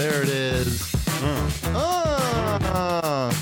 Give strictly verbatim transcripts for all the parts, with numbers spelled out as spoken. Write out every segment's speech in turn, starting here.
There it is. Mm. Ah.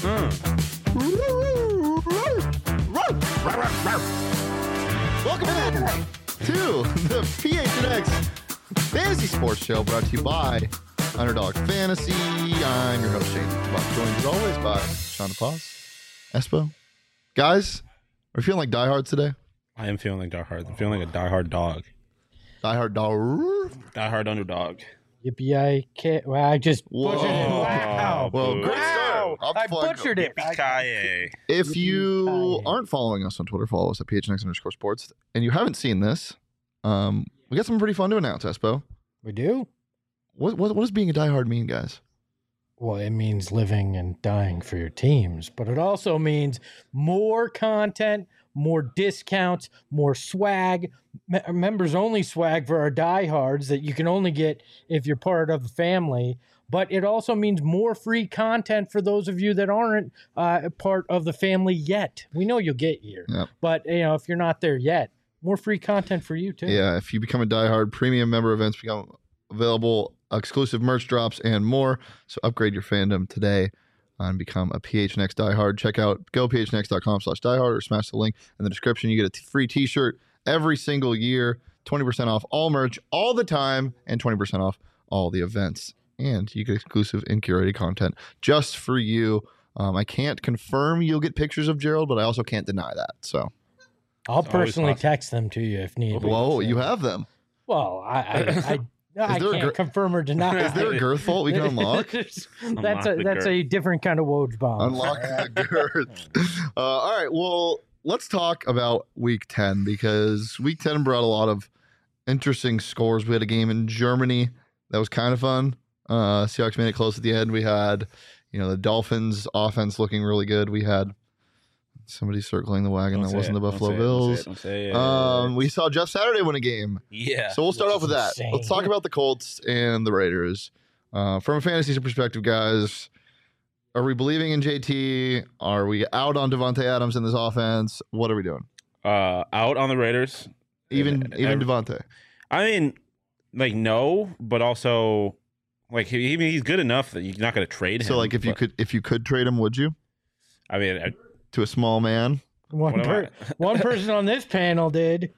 Mm. Welcome to the P H N X Fantasy Sports Show, brought to you by Underdog Fantasy. I'm your host, Shane Buck, joined as always by Sean DePaz, Espo. Guys, are you feeling like diehards today? I am feeling like diehard. I'm feeling like a diehard dog. Diehard dog. Diehard underdog. Yippee! I can't. Well, I just Whoa. butchered it. Wow! Well, great Wow! start. I I'm fine. butchered it. Yippee-ki-yay. If you Yippee-ki-yay. aren't following us on Twitter, follow us at P H N X underscore sports. And you haven't seen this, um, we got something pretty fun to announce, Espo. We do. What, what, what does being a diehard mean, guys? Well, it means living and dying for your teams, but it also means more content, more discounts, more swag, me- members only swag for our diehards that you can only get if you're part of the family. But it also means more free content for those of you that aren't uh, part of the family yet. We know you'll get here, Yep. but you know if you're not there yet, more free content for you too. Yeah, if you become a diehard, premium member events become available, exclusive merch drops, and more. So upgrade your fandom today and become a P H N X diehard. Check out gophnx.com slash diehard or smash the link in the description. You get a t- free t-shirt every single year, twenty percent off all merch all the time, and twenty percent off all the events. And you get exclusive and curated content just for you. Um, I can't confirm you'll get pictures of Gerald, but I also can't deny that. So, I'll It's always personally possible. text them to you if need be. whoa, So- you have them. Well, I I, I, I there a can't gr- confirm or deny. Is there a girth fault we can unlock? that's Unlock a the that's a different kind of Woj bomb. Unlock the girth. Uh, all right. Well, let's talk about week ten because week ten brought a lot of interesting scores. We had a game in Germany that was kind of fun. Uh, Seahawks made it close at the end. We had, you know, the Dolphins offense looking really good. We had somebody circling the wagon Don't that say wasn't it. the Don't Buffalo say it. Don't Bills. say it. Don't say it. Um, we saw Jeff Saturday win a game. yeah. So we'll start Which off with is that. insane. Let's talk about the Colts and the Raiders. Uh, from a fantasy perspective, guys, are we believing in J T? Are we out on Devontae Adams in this offense? What are we doing? uh, out on the Raiders. Even And even every- Devontae. I mean, like, no, but also, like, he, he- he's good enough that you're not going to trade him. So like if you but- could if you could trade him, would you? I mean, I, To a small man? one what am per, one person on this panel did.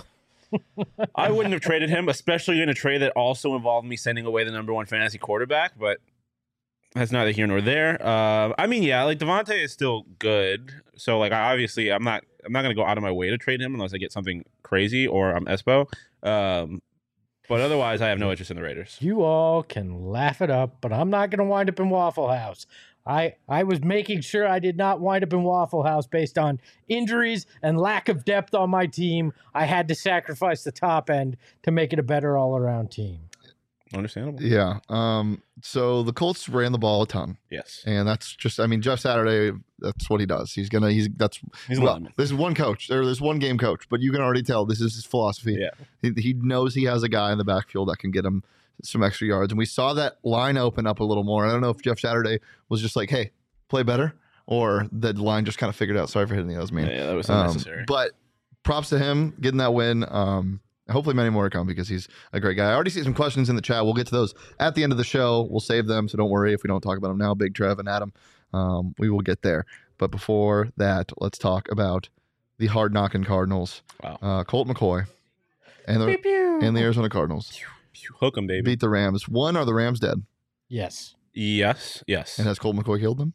I wouldn't have traded him, especially in a trade that also involved me sending away the number one fantasy quarterback, but that's neither here nor there. Uh, I mean, yeah, like Devontae is still good. So like I obviously I'm not I'm not gonna go out of my way to trade him unless I get something crazy or I'm Espo. Um, but otherwise I have no interest in the Raiders. You all can laugh it up, but I'm not going to wind up in Waffle House. I, I was making sure I did not wind up in Waffle House based on injuries and lack of depth on my team. I had to sacrifice the top end to make it a better all-around team. Understandable. Yeah. Um, so the Colts ran the ball a ton. Yes. And that's just I mean, Jeff Saturday, that's what he does. He's gonna he's that's He's well, lineman. this is one coach. There, there's one game coach, but you can already tell this is his philosophy. Yeah. He, he knows he has a guy in the backfield that can get him some extra yards. And we saw that line open up a little more. I don't know if Jeff Saturday was just like, hey, play better, or the line just kind of figured out. Sorry for hitting the O's, man. Yeah, yeah, that was Um, unnecessary. but props to him getting that win. Um, hopefully many more to come because he's a great guy. I already see some questions in the chat. We'll get to those at the end of the show. We'll save them, so don't worry if we don't talk about them now. Big Trev and Adam, um, we will get there. But before that, let's talk about the hard knocking Cardinals. Wow. Uh, Colt McCoy and the Pew, pew. and the Arizona Cardinals Hook him, baby. beat the Rams. One, are the Rams dead? Yes. Yes. Yes. And has Colt McCoy killed them?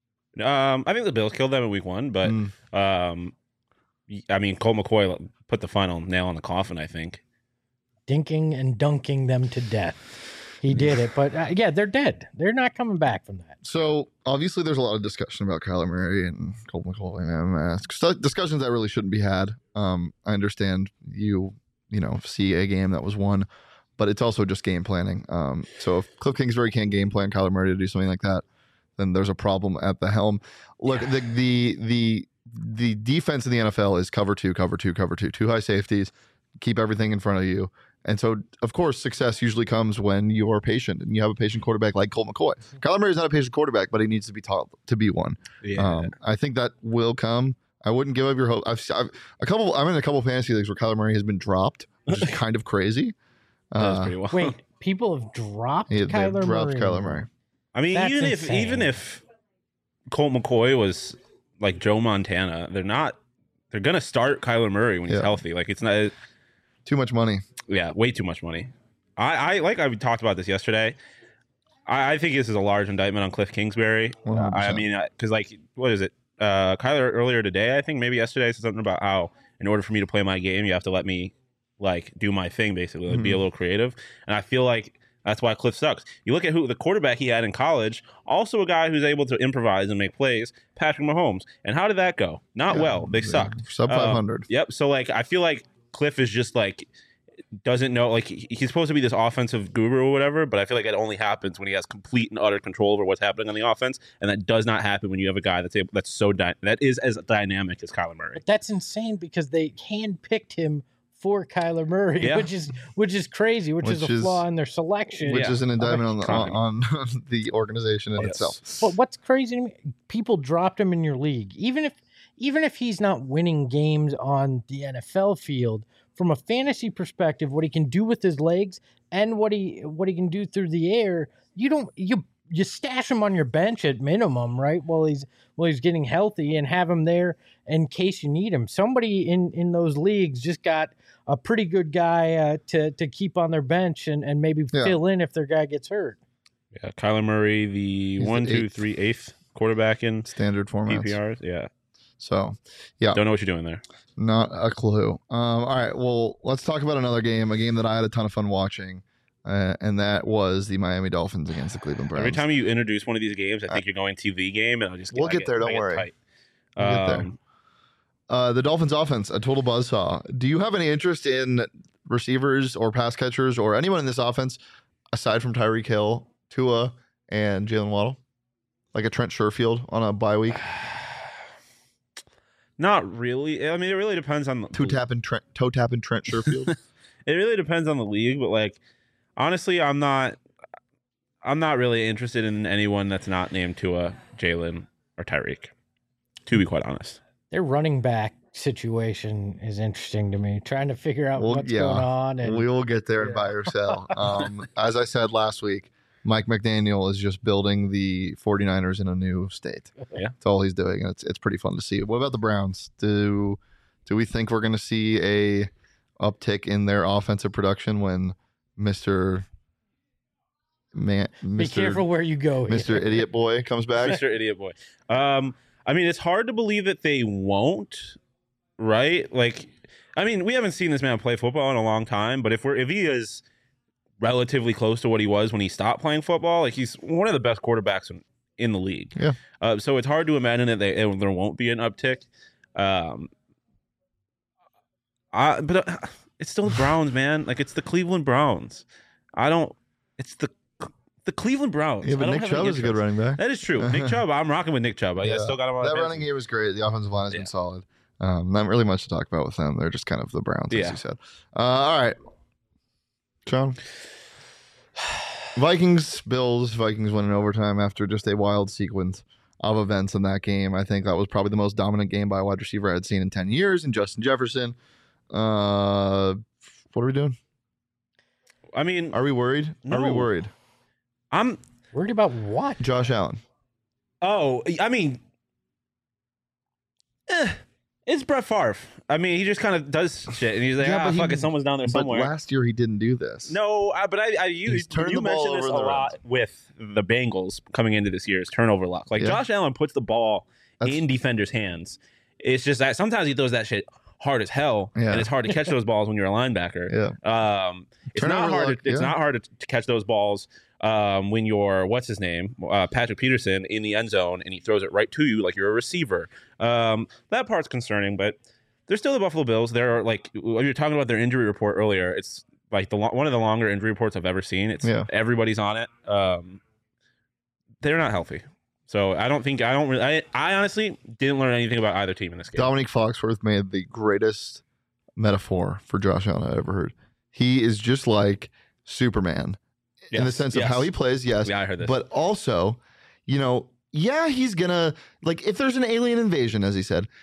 Um, I think the Bills killed them in week one, but Mm. um, y- I mean, Cole McCoy put the final nail in the coffin. I think. Dinking and dunking them to death. He did it, but uh, yeah, they're dead. They're not coming back from that. So obviously, there's a lot of discussion about Kyler Murray and Colt McCoy and M S. St- Discussions that really shouldn't be had. Um, I understand you, you know, see a game that was won, but it's also just game planning. Um, so if Cliff Kingsbury can't game plan Kyler Murray to do something like that, then there's a problem at the helm. Look, the the the the defense in the N F L is cover two, cover two, cover two, two high safeties, keep everything in front of you. And so, of course, success usually comes when you are patient and you have a patient quarterback like Colt McCoy. Kyler Murray is not a patient quarterback, but he needs to be taught to be one. Yeah. Um, I think that will come. I wouldn't give up your hope. I've, I've a couple. I'm in a couple fantasy leagues where Kyler Murray has been dropped, which is kind of crazy. that was Uh, pretty well. Wait, people have dropped Yeah, they've Kyler dropped Murray. Kyler Murray. I mean, That's even if insane. even if Colt McCoy was like Joe Montana, they're not. They're gonna start Kyler Murray when he's Yeah. healthy. Like it's not. Too much money. Yeah, way too much money. I, I like I talked about this yesterday. I, I think this is a large indictment on Cliff Kingsbury. one hundred I percent. mean, because like, what is it? Uh, Kyler earlier today, I think maybe yesterday, said something about how in order for me to play my game, you have to let me like do my thing, basically, like, be a Mhm. little creative. And I feel like that's why Cliff sucks. You look at who the quarterback he had in college, also a guy who's able to improvise and make plays, Patrick Mahomes. And how did that go? Not Yeah, well. They yeah. sucked. Sub Uh, five hundred. Yep. So like, I feel like Cliff is just like doesn't know. Like he- he's supposed to be this offensive guru or whatever, but I feel like it only happens when he has complete and utter control over what's happening on the offense, and that does not happen when you have a guy that's able, that's so dy- that is as dynamic as Kyler Murray. But that's insane because they handpicked him for Kyler Murray, Yeah. which is which is crazy, which, is Which a is- flaw in their selection. Which Yeah. is an indictment on the, Company. on, on the organization in Yes. itself. But what's crazy to me, people dropped him in your league, even if even if he's not winning games on the N F L field. From a fantasy perspective, what he can do with his legs and what he what he can do through the air, you don't you you stash him on your bench at minimum, right? While he's while he's getting healthy, and have him there in case you need him. Somebody in in those leagues just got a pretty good guy uh, to to keep on their bench and and maybe Yeah. fill in if their guy gets hurt. Yeah, Kyler Murray, the He's the one, two, eighth. three, eighth quarterback in Standard P formats. P Rs. Yeah, So, yeah, don't know what you're doing there. not a clue. Um, all right, well, let's talk about another game, a game that I had a ton of fun watching, uh, and that was the Miami Dolphins against the Cleveland Browns. Every time you introduce one of these games, I think you're going T V game, and I'll just We'll I get there, don't I worry. tight. We'll get there. Um, Uh, the Dolphins offense, a total buzzsaw. Do you have any interest in receivers or pass catchers or anyone in this offense aside from Tyreek Hill, Tua, and Jalen Waddle? Like a Trent Sherfield on a bye week? Not really. I mean, it really depends on the Two tapping Trent, toe tapping Trent Sherfield. It really depends on the league, but like honestly, I'm not. I'm not really interested in anyone that's not named Tua, Jalen, or Tyreek. To be quite honest, Their running back situation is interesting to me. Trying to figure out Well, what's yeah. going on, and We will get there in Yeah. buy or sell. Um, as I said last week, Mike McDaniel is just building the 49ers in a new state. Yeah. That's all he's doing. And it's it's pretty fun to see. What about the Browns? Do do we think we're going to see a uptick in their offensive production when Mister Man, be Mister careful where you go. here. Mister Idiot Boy comes back? Mister Idiot Boy. Um, I mean, it's hard to believe that they won't, right? Like, I mean, we haven't seen this man play football in a long time, but if we're if he is relatively close to what he was when he stopped playing football, like he's one of the best quarterbacks in, in the league. Yeah. Uh, so it's hard to imagine that they, there won't be an uptick. Um, I, but uh, it's still the Browns, man. Like it's the Cleveland Browns. I don't. It's the the Cleveland Browns. Yeah, I but don't Nick have any Chubb is a good interest. running back. That is true. Nick Chubb, I'm rocking with Nick Chubb. I, I Yeah. still got him on That my running fantasy. game was great. The offensive line has Yeah. been solid. Um, not really much to talk about with them. They're just kind of the Browns, as Yeah. you said. Uh, all right, Sean. Vikings, Bills. Vikings win in overtime after just a wild sequence of events in that game. I think that was probably the most dominant game by a wide receiver I had seen in ten years in Justin Jefferson. Uh, what are we doing? I mean, Are we worried? Are we No. worried? I'm. Worried about what? Josh Allen. Oh, I mean, eh, it's Brett Favre. I mean, he just kind of does shit, and he's like, Yeah, ah, but he- fuck it, someone's down there But somewhere. last year he didn't do this. No, I, but I, I you, He's turned you the ball mentioned this a over the lot with the Bengals coming into this year's turnover luck. Like Yeah. Josh Allen puts the ball That's- in defenders' hands. It's just that sometimes he throws that shit hard as hell, Yeah. and it's hard to catch those balls when you're a linebacker. Yeah. Um, it's Turnover not hard. luck, to, it's yeah. not hard to, to catch those balls um, when you're what's his name, uh, Patrick Peterson in the end zone, and he throws it right to you like you're a receiver. Um, that part's concerning, but they're still the Buffalo Bills. They're like when you're talking about their injury report earlier. It's like the lo- one of the longer injury reports I've ever seen. It's Yeah. everybody's on it. Um, they're not healthy. So I don't think I don't really. I, I honestly didn't learn anything about either team in this game. Dominique Foxworth made the greatest metaphor for Josh Allen I ever heard. He is just like Superman in the Yes, sense of yes. how he plays, yes, Yeah, I heard this. but also, you know, yeah, he's gonna like if there's an alien invasion, as he said,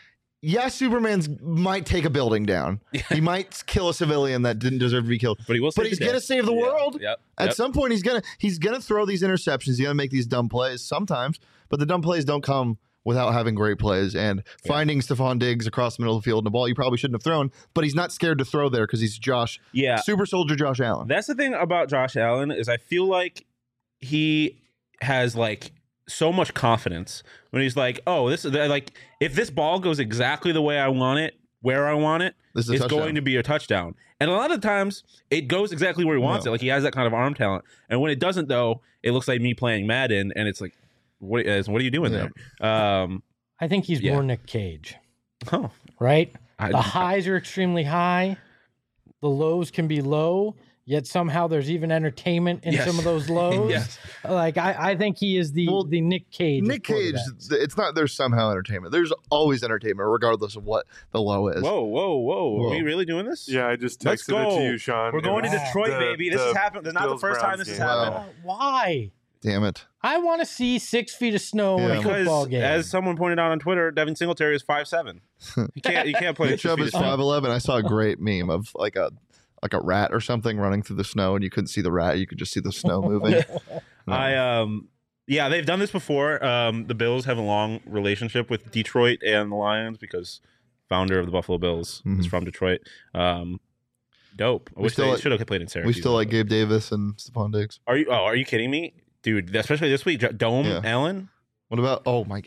yeah, Superman's might take a building down. He might kill a civilian that didn't deserve to be killed. But he will. But he's gonna save the yeah. world. Yep. At yep. some point, he's gonna he's gonna throw these interceptions. He's gonna make these dumb plays sometimes, but the dumb plays don't come without having great plays and Yeah. finding Stephon Diggs across the middle of the field and a ball you probably shouldn't have thrown. But he's not scared to throw there because he's Josh, Yeah. super soldier Josh Allen. That's the thing about Josh Allen is I feel like he has like so much confidence when he's like, oh, this is like if this ball goes exactly the way I want it, where I want it, This is a it's touchdown. going to be a touchdown. And a lot of times it goes exactly where he wants No. it. Like he has that kind of arm talent. And when it doesn't, though, it looks like me playing Madden, and it's like, what is what are you doing Yeah. there? Um, I think he's Yeah. more Nick Cage, oh, right? I, The highs are extremely high. The lows can be low, yet somehow there's even entertainment in Yes. some of those lows. Yes. Like I, I think he is the Well, the Nick Cage. of Nick Cage, quarterbacks. it's not there's somehow entertainment. There's always entertainment, regardless of what the low is. Whoa, whoa, whoa, Whoa. Are we really doing this? Yeah, I just Let's texted it go. to you, Sean. We're going to Wow. Detroit, The- baby. This the has happened. This is not the Bills first time Browns this has game. Wow. happened. Uh, Why? Damn it. I want to see six feet of snow in Yeah. a football Because game. as someone pointed out on Twitter, Devin Singletary is five seven. You can't you can't play Nick six Chubb feet is of snow. five eleven. I saw a great meme of like a like a rat or something running through the snow, and you couldn't see the rat. You could just see the snow moving. No. I um yeah, they've done this before. Um, the Bills have a long relationship with Detroit and the Lions because founder of the Buffalo Bills is Mhm. from Detroit. Um, dope. I We wish still they like- should have played in we Syracuse. still like Gabe Davis and Stephon Diggs. Are you? Oh, are you kidding me, dude? Especially this week, Dome Yeah. Allen. What about? Oh my.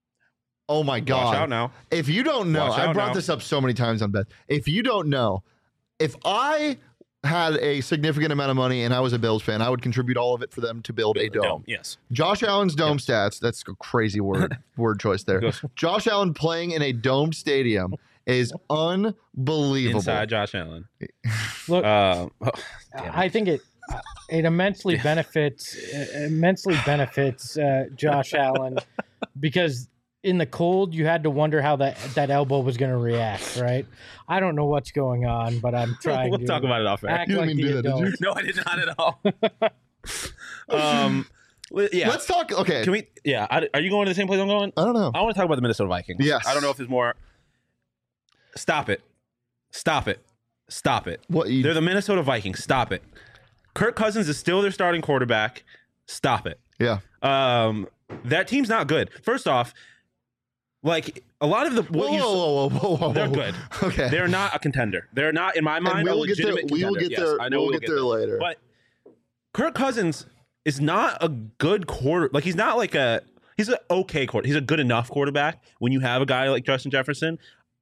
Oh my Watch God! out now. If you don't know, Watch I out brought now. this up so many times on Beth. If you don't know, if I had a significant amount of money and I was a Bills fan, I would contribute all of it for them to build a dome. Yes. Josh Allen's dome stats, that's a crazy word word choice there. Goes Josh Allen playing in a domed stadium is unbelievable. inside Josh Allen. Look, Uh, oh, damn it. I think it uh, it immensely Yeah. benefits uh, immensely benefits uh, Josh Allen because in the cold you had to wonder how that that elbow was going to react. Right? I don't know what's going on, but I'm trying. we'll to talk about it off air. act You didn't like mean the do that, did you? adult. No, I did not at all. um, li- yeah. Let's talk. Okay. Can we? Yeah. I, are you going to the same place I'm going? I don't know. I want to talk about the Minnesota Vikings. Yes. I don't know if there's more. Stop it. Stop it. Stop it. What you, They're the Minnesota Vikings. Stop it. Kirk Cousins is still their starting quarterback. Stop it. yeah. Um, that team's not good. First off, like a lot of the what Whoa, you whoa, whoa, whoa, whoa, they're whoa. good. Okay. They're not a contender. They're not, in my and mind, we a will get there. legitimate We will contender. get Yes, there. I know we'll we'll get there later. But Kirk Cousins is not a good quarter. Like he's not like a he's an okay quarter. He's a good enough quarterback when you have a guy like Justin Jefferson.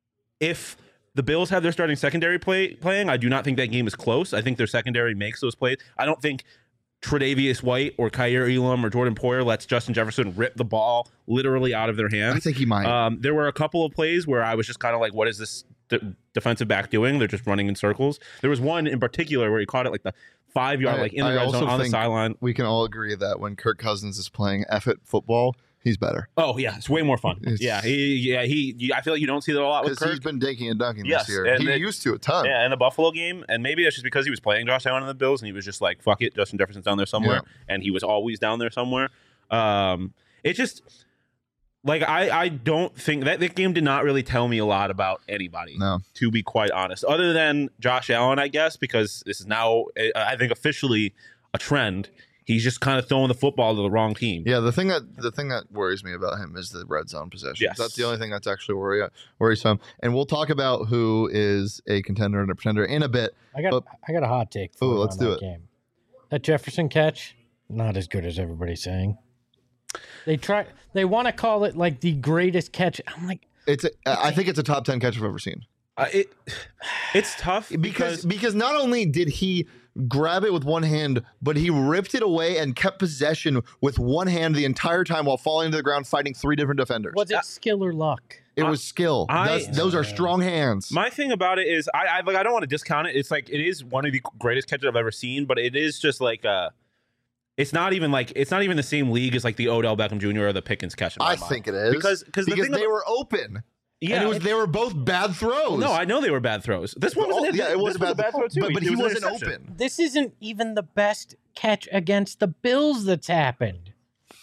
If the Bills have their starting secondary play playing, I do not think that game is close. I think their secondary makes those plays. I don't think Tre'Davious White or Kyer Elam or Jordan Poyer lets Justin Jefferson rip the ball literally out of their hands. I think he might. Um, there were a couple of plays where I was just kind of like, what is this de- defensive back doing? They're just running in circles. There was one in particular where he caught it like the five yard, I- like in the I red also zone on the think- sideline. we can all agree that when Kirk Cousins is playing F it football, he's better Oh yeah, it's way more fun. It's- yeah, he, yeah, he. you- I feel like you don't see that a lot with because Kirk. he's been dinking and dunking Yes, this year. and He they- used to a ton. Yeah, in the Buffalo game, and maybe that's just because he was playing Josh Allen in the Bills, and he was just like, "Fuck it, Justin Jefferson's down there somewhere," and he was always down there somewhere. Um, it just like I, I don't think that that game did not really tell me a lot about anybody. No. To be quite honest, other than Josh Allen, I guess, because this is now, I think, officially a trend. He's just kind of throwing the football to the wrong team. Yeah, the thing that the thing that worries me about him is the red zone possession. Yes. That's the only thing that's actually worry, worrisome. And we'll talk about who is a contender and a pretender in a bit. I got But- I got a hot take for Ooh, you let's on do that it. game. That Jefferson catch, not as good as everybody's saying. They try they want to call it like the greatest catch. I'm like, It's a, I think it's a top ten catch I've ever seen. Uh, it it's tough Because because, because not only did he grab it with one hand, but he ripped it away and kept possession with one hand the entire time while falling to the ground fighting three different defenders. was it skill or luck? It was skill. I- That's- those are strong hands. my thing about it is I, I like I don't want to discount it. It's like it is one of the greatest catches I've ever seen, but it is just like uh it's not even like it's not even the same league as like the Odell Beckham Junior or the Pickens catch. in my I mind. think it is because because the because thing they about- were open. yeah, and it was they were both bad throws. no, I know they were bad throws. This one was Oh, an, yeah, it was, this was a bad throw too, but, but It he was an wasn't interception. open. This isn't even the best catch against the Bills that's happened.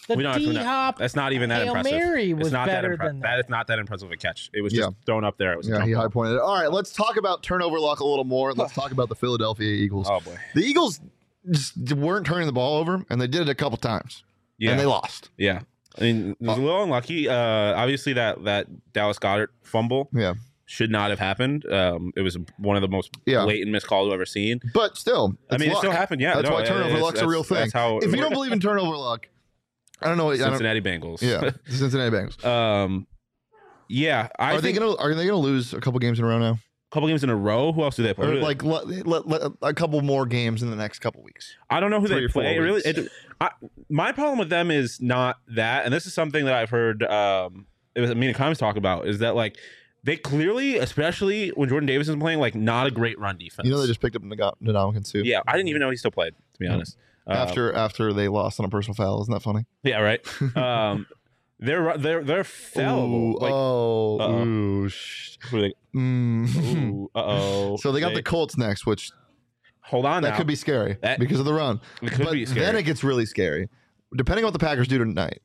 The We don't have to- D Hop That's not even that Hail impressive. Mary It's was not better that, impre- than that that. is not that impressive of a catch. It was Yeah. just thrown up there. It was a Yeah, jump he ball. high pointed it. All right, let's talk about turnover luck a little more. Let's talk about the Philadelphia Eagles. Oh boy. The Eagles just weren't turning the ball over, and they did it a couple times, Yeah. and they lost. Yeah. I mean, it was a little unlucky. Uh, obviously, that that Dallas Goedert fumble Yeah, should not have happened. Um, it was one of the most Yeah. blatant missed calls I've ever seen. but still, I it's mean, luck. it still happened. Yeah, That's no, why turnover it's- luck's a real that's- thing. That's how If you don't believe in turnover luck, I don't know. What, I don't, Cincinnati Bengals. yeah, the Cincinnati Bengals. um, yeah. I Are they think gonna Are they gonna lose a couple games in a row now, a couple games in a row. Who else do they play? or Who do they- like let, let, let, a couple more games in the next couple weeks? I don't know who three they or four play. It really, weeks. it, I, my problem with them is not that, and this is something that I've heard. Um, it was me and Combs talk about is that like they clearly, especially when Jordan Davis is playing, like not a great run defense. You know, they just picked up Ndamukong Suh. yeah, I didn't even know he still played. To be Yeah. honest, Uh, After after they lost on a personal foul, isn't that funny? yeah, right. Um, they're they're they're fallible. Ooh, like, oh, uh-oh. ooh, sh- who are they? mm. Ooh, uh oh. So they got the Colts next, which hold on that now. could be scary That- because of the run. It could but be scary. then it gets really scary, depending on what the Packers do tonight.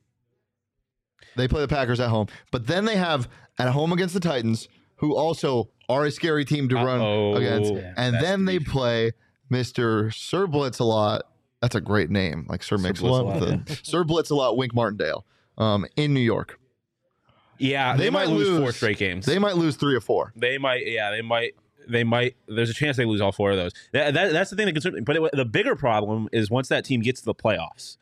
They play the Packers at home, but then they have at home against the Titans, who also are a scary team to run Uh-oh. against, Yeah, and that's then they the- play Mister Sir Blitz-a-lot. That's a great name, like Sir Mix-a-Lot. Blitz-a-Lot, with a- Sir Blitz-a-lot, Wink Martindale, um, in New York. yeah, they, they might might lose, four lose. straight games. They might lose three or four. They might, yeah, they might, they might. There's a chance they lose all four of those. That, that that's the thing that concerns me. But it, the bigger problem is once that team gets to the playoffs.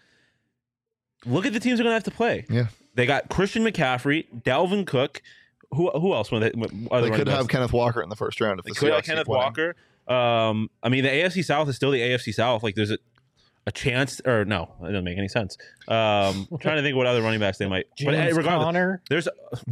Look at the teams they're going to have to play. Yeah. They got Christian McCaffrey, Dalvin Cook. Who who else? Were they, were They the could running have backs? Kenneth Walker in the first round if They the could have Seahawks keep Kenneth winning. Walker. Um, I mean, the A F C South is still the A F C South. Like, there's a a chance, or no, it doesn't make any sense. Um, I'm trying to think what other running backs they might. but James uh, regardless, Conner. there's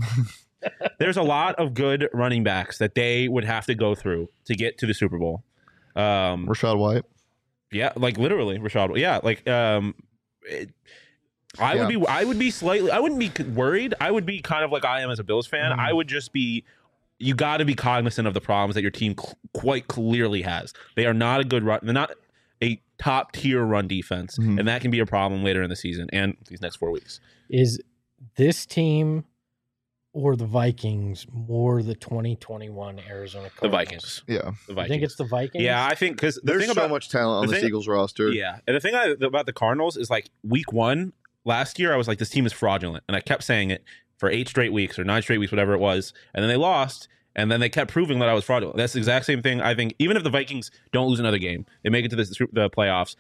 there's a lot of good running backs that they would have to go through to get to the Super Bowl. Um, Rashad White. yeah, like literally, Rashad. Yeah, like um, it, I Yeah. would be, I would be slightly, I wouldn't be worried. I would be kind of like I am as a Bills fan. Mhm. I would just be. You got to be cognizant of the problems that your team cl- quite clearly has. They are not a good run. They're not a top tier run defense, Mhm. and that can be a problem later in the season and these next four weeks. Is this team or the Vikings more the twenty twenty-one Arizona Cardinals? The Vikings. Yeah. The I Vikings. think it's the Vikings. Yeah, I think because the There's thing so about much talent on the this thing- Eagles roster. yeah, and the thing I, about the Cardinals is like week one last year, I was like, this team is fraudulent, and I kept saying it for eight straight weeks or nine straight weeks, whatever it was, and then they lost. And then they kept proving that I was fraudulent. That's the exact same thing. I think even if the Vikings don't lose another game, they make it to the, the playoffs.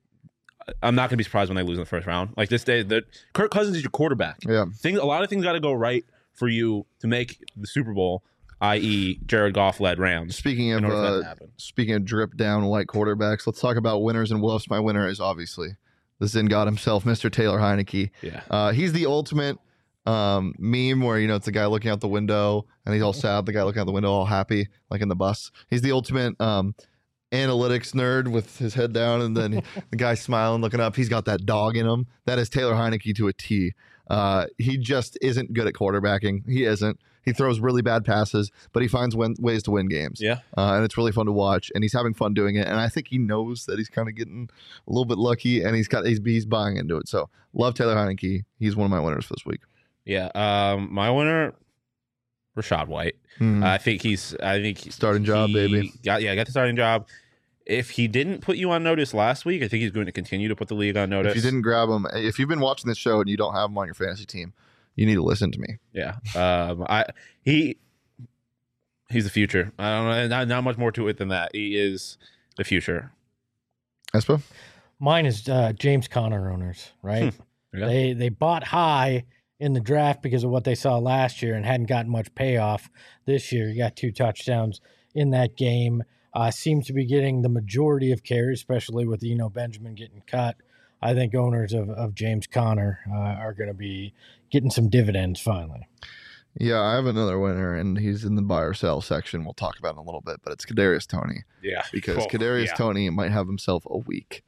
I'm not going to be surprised when they lose in the first round. Like this day, the Kirk Cousins is your quarterback. Yeah. Things, a lot of things got to go right for you to make the Super Bowl, that is, Jared Goff led Rams. Speaking In of order for that uh, to happen. speaking of drip down white quarterbacks, let's talk about winners and wolves. My winner is obviously the Zen God himself, Mister Taylor Heineke. Yeah. Uh, he's the ultimate um, meme where, you know, it's the guy looking out the window and he's all sad. The guy looking out the window all happy, like in the bus. He's the ultimate um, analytics nerd with his head down and then the guy smiling, looking up. He's got that dog in him. That is Taylor Heineke to a T. Uh, he just isn't good at quarterbacking. He isn't. He throws really bad passes, but he finds win- ways to win games. Yeah. Uh, and it's really fun to watch, and he's having fun doing it. And I think he knows that he's kind of getting a little bit lucky, and he's got he's, he's buying into it. So love Taylor Heineke. He's one of my winners for this week. Yeah. Um, my winner, Rashad White. Hmm. I think he's. I think he- Starting job, he baby. Got, yeah, got the starting job. If he didn't put you on notice last week, I think he's going to continue to put the league on notice. If you didn't grab him, if you've been watching this show and you don't have him on your fantasy team, you need to listen to me. Yeah. Um. I he. He's the future. I don't know. Not, not much more to it than that. He is the future. Espo? Mine is uh, James Conner owners, right? Yeah. They they bought high in the draft because of what they saw last year and hadn't gotten much payoff this year. He got two touchdowns in that game. Uh, seems to be getting the majority of carries, especially with you know Benjamin getting cut. I think owners of, of James Conner uh, are going to be getting some dividends finally. Yeah, I have another winner, and he's in the buy or sell section. We'll talk about it in a little bit, but it's Kadarius Toney Yeah. because Cool. Kadarius Yeah. Toney might have himself a week.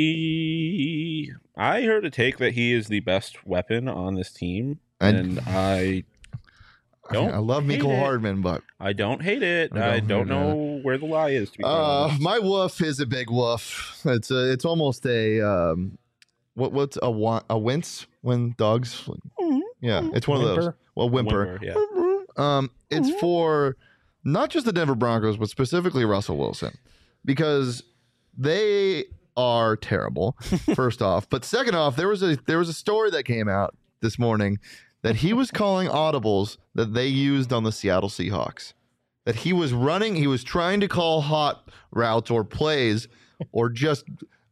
He. I heard a take that he is the best weapon on this team, And- and I. Don't I love hate Mecole it. Hardman, but I don't hate it. I I don't don't, hate know where the lie is. To be quite uh, honest. my woof is a big woof. It's a, it's almost a um, what what's a wa- a wince when dogs? Yeah, it's one of those. Whimper. Well, whimper. Whimper, yeah. Um, it's for not just the Denver Broncos, but specifically Russell Wilson, because they are terrible. First off, but second off, there was a there was a story that came out this morning that he was calling audibles that they used on the Seattle Seahawks. That he was running, he was trying to call hot routes or plays, or just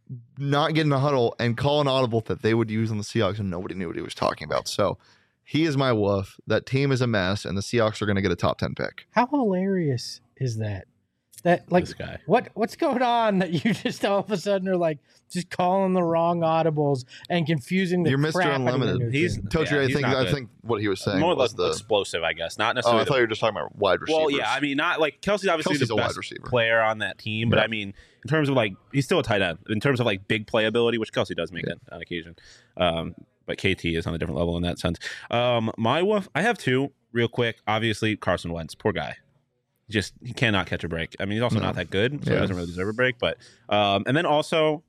not get in a huddle and call an audible that they would use on the Seahawks, and nobody knew what he was talking about. So he is my wolf. That team is a mess, and the Seahawks are going to get a top ten pick. How hilarious is that? That like This guy. what what's going on that you just all of a sudden are like just calling the wrong audibles and confusing the You're Mister crap out of your Unlimited. new He's- team. Tochi, Yeah, I he's think not I good. think what he was saying More or was less the. explosive, I guess. Not Oh, necessarily. I thought you were just talking about wide receivers. well, yeah. I mean, not like Kelsey's obviously Kelsey's the a wide best receiver. player on that team, but Yeah. I mean, in terms of like, he's still a tight end. In terms of like big playability, which Kelsey does make Yeah. it on occasion. Um, but K T is on a different level in that sense. Um, my wolf, I have two real quick. Obviously, Carson Wentz, poor guy. Just he cannot catch a break. I mean, he's also No. not that good, so Yeah. he doesn't really deserve a break. But um, and then also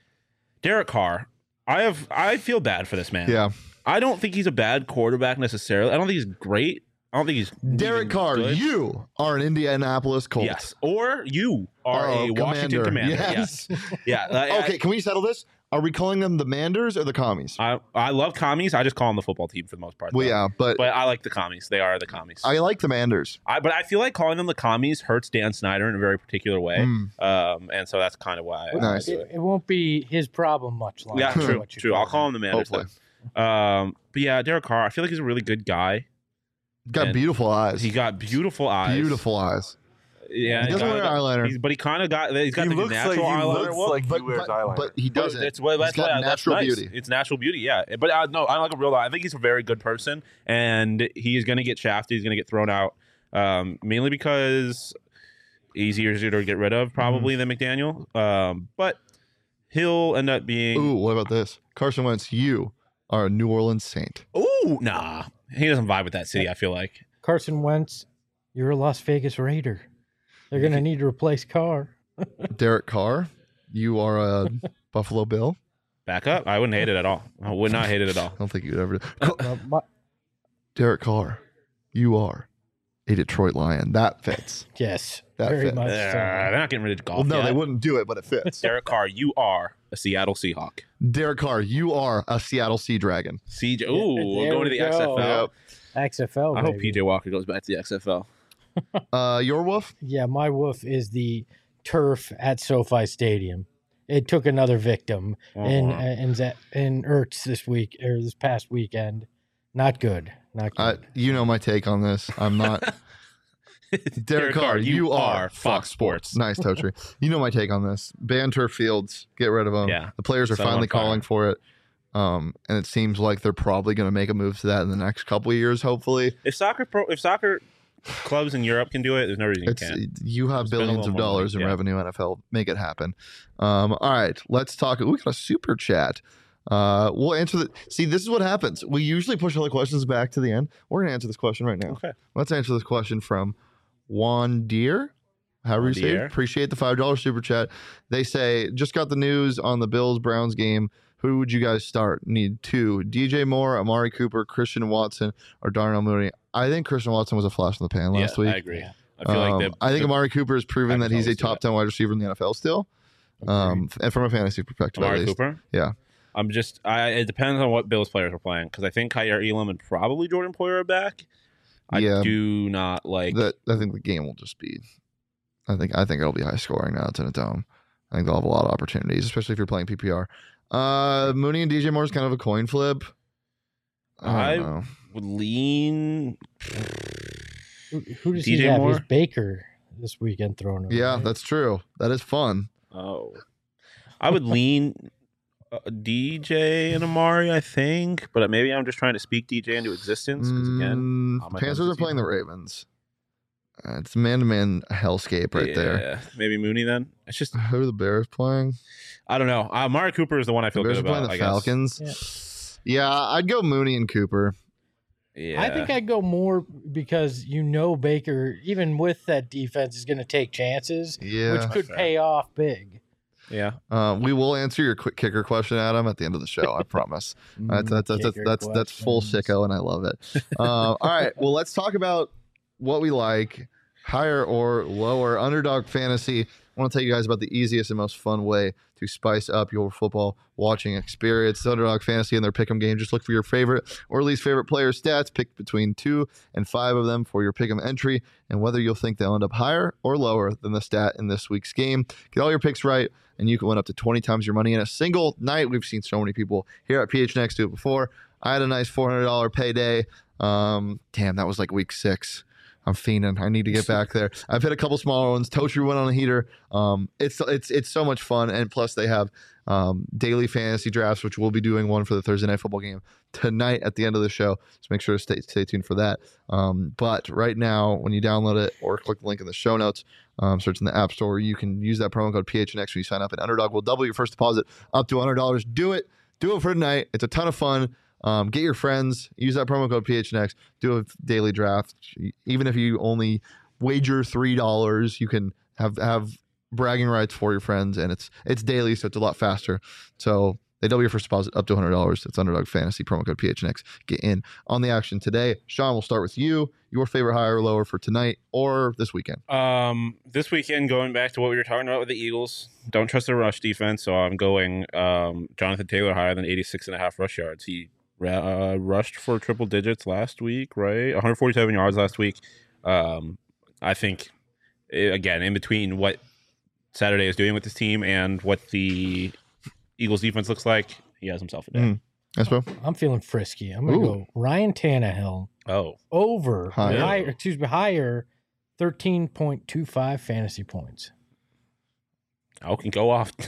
Derek Carr. I have I feel bad for this man. yeah. I don't think he's a bad quarterback necessarily. I don't think he's great. I don't think he's Derek even Carr, good. you are an Indianapolis Colt. Yes, or you are Oh, a Washington Commander. Yes. Yes, yeah. I- Okay, can we settle this? Are we calling them the Manders or the Commies? I, I love commies. I just call them the football team for the most part. Well, though. yeah, but, But I like the commies. They are the commies. I like the Manders. I, but I feel like calling them the commies hurts Dan Snyder in a very particular way. Mm. Um, and so that's kind of why. I Nice. do It, it. it won't be his problem much longer. Yeah, is true, what you true. I'll call him the man. Hopefully. Um, but yeah, Derek Carr. I feel like he's a really good guy. Got And beautiful eyes. He got beautiful eyes. Beautiful eyes. Yeah, He doesn't kinda wear got- eyeliner. he's- but he kind of got. He's got He the looks natural like- he eyeliner. looks Well, like he but, wears but, eyeliner. but he But doesn't. It's, well, He's that's got why- that's natural nice. beauty. It's natural beauty, yeah. But uh, no, I like a real. I think he's a very good person, and he is going to get shafted. He's going to get thrown out, um, mainly because he's easier to get rid of probably than McDaniel. Um, but he'll end up being. Ooh, what about this? Carson Wentz, you are a New Orleans Saint. Ooh, nah, he doesn't vibe with that city. I feel like. Carson Wentz, you're a Las Vegas Raider. They're going to need to replace Carr. Derek Carr, you are a Buffalo Bill. Back up. I wouldn't hate it at all. I would not hate it at all. I don't think you'd ever. Uh, my- Derek Carr, you are a Detroit Lion. That fits. yes, That very fits. much Uh, so. they're not getting rid of golf. Well, no, yet. they wouldn't do it, but it fits. Derek Carr, you are a Seattle Seahawk. Derek Carr, you are a Seattle Sea Dragon. C J. Yeah, Ooh, there we're going to we the X F L. go. Yep. X F L. I hope baby. P J Walker goes back to the X F L. Uh, your wolf? Yeah, my wolf is the turf at SoFi Stadium. It took another victim in Uh-huh. in Z- in Ertz this week or this past weekend. Not good. Not I, good. you know my take on this. I'm not. Derek Carr, you, are Fox Sports. Nice, Totri. You know my take on this. Ban turf fields. Get rid of them. Yeah. The players are Set 'em finally on fire. calling for it. Um, and it seems like they're probably going to make a move to that in the next couple of years, hopefully. If soccer pro, if soccer clubs in Europe can do it, there's no reason you It's can't. you have Spend a billions little of more dollars money, in yeah. revenue, N F L. Make it happen. Um, all right, let's talk. We got a super chat. Uh, we'll answer the. See, this is what happens. We usually push all the questions back to the end. We're going to answer this question right now. Okay. Let's answer this question from Juan Deere. However you say it. Deere. Appreciate the five dollar super chat. They say, just got the news on the Bills Browns game. Who would you guys start? Need two. D J Moore, Amari Cooper, Christian Watson, or Darnell Mooney. I think Christian Watson was a flash in the pan last yeah, week. I agree. I feel Um, like the, I think the, Amari Cooper has proven that he's a Packers always top ten wide receiver in the N F L still. Um, and from a fantasy perspective, at Amari least. Cooper. Yeah. I'm just. I. It depends on what Bills players are playing because I think Kyer Elam and probably Jordan Poyer are back. I Yeah. do not like. That I think the game will just be. I think I think it'll be high scoring now. It's in a dome. I think they'll have a lot of opportunities, especially if you're playing P P R. Uh, Mooney and D J Moore is kind of a coin flip. I I- don't know. would lean. Who, who does D J he have? Moore? He's Baker this weekend thrown. over, Yeah, right? that's true. That is fun. Oh, I would lean uh, D J and Amari. I think, but maybe I'm just trying to speak D J into existence because again, Mm, on my Panthers are fantasy playing the team. Ravens. Uh, it's man to man hellscape right there. yeah, maybe Mooney. Then it's just Who are the Bears playing? I don't know. Uh, Amari Cooper is the one I The feel Bears good are playing about. the I guess. Falcons. Yeah. I'd go Mooney and Cooper. Yeah, I think I'd go more because you know Baker, even with that defense, is going to take chances, Yeah. which could fair. pay off big. Yeah. Uh, we will answer your quick kicker question, Adam, at the end of the show. I promise. That's that's that's, that's, that's, that's full sicko, and I love it. Uh, all right. Well, let's talk about what we like, higher or lower. Underdog Fantasy. I want to tell you guys about the easiest and most fun way to spice up your football watching experience. It's Underdog Fantasy and their pick'em game. Just look for your favorite or least favorite player stats. Pick between two and five of them for your pick'em entry, and whether you'll think they'll end up higher or lower than the stat in this week's game. Get all your picks right, and you can win up to twenty times your money in a single night. We've seen so many people here at P H N X do it before. I had a nice four hundred dollars payday. Um, damn, that was like week six. I'm fiending. I need to get back there. I've hit a couple smaller ones. Totri went on a heater. Um, it's it's it's so much fun, and plus they have um, daily fantasy drafts, which we'll be doing one for the Thursday night football game tonight at the end of the show. So make sure to stay stay tuned for that. Um, but right now, when you download it or click the link in the show notes, um, search in the App Store, you can use that promo code P H N X when you sign up. And Underdog will double your first deposit up to one hundred dollars. Do it. Do it for tonight. It's a ton of fun. Um, get your friends, use that promo code P H N X, do a daily draft. Even if you only wager three dollars, you can have have bragging rights for your friends, and it's it's daily, so it's a lot faster. So they double your first deposit up to one hundred dollars. It's Underdog Fantasy, promo code P H N X. Get in on the action today. Sean, we'll start with you. Your favorite higher or lower for tonight or this weekend? Um, this weekend, going back to what we were talking about with the Eagles, don't trust their rush defense, so I'm going um, Jonathan Taylor higher than eighty-six and a half rush yards. He Uh, rushed for triple digits last week, right? one hundred forty-seven yards last week. Um, I think, it, again, in between what Saturday is doing with this team and what the Eagles defense looks like, he has himself a day. Mm. Yes, bro. I'm feeling frisky. I'm going to go Ryan Tannehill Oh. over, Higher. higher, excuse me, higher thirteen point two five fantasy points. I can go off.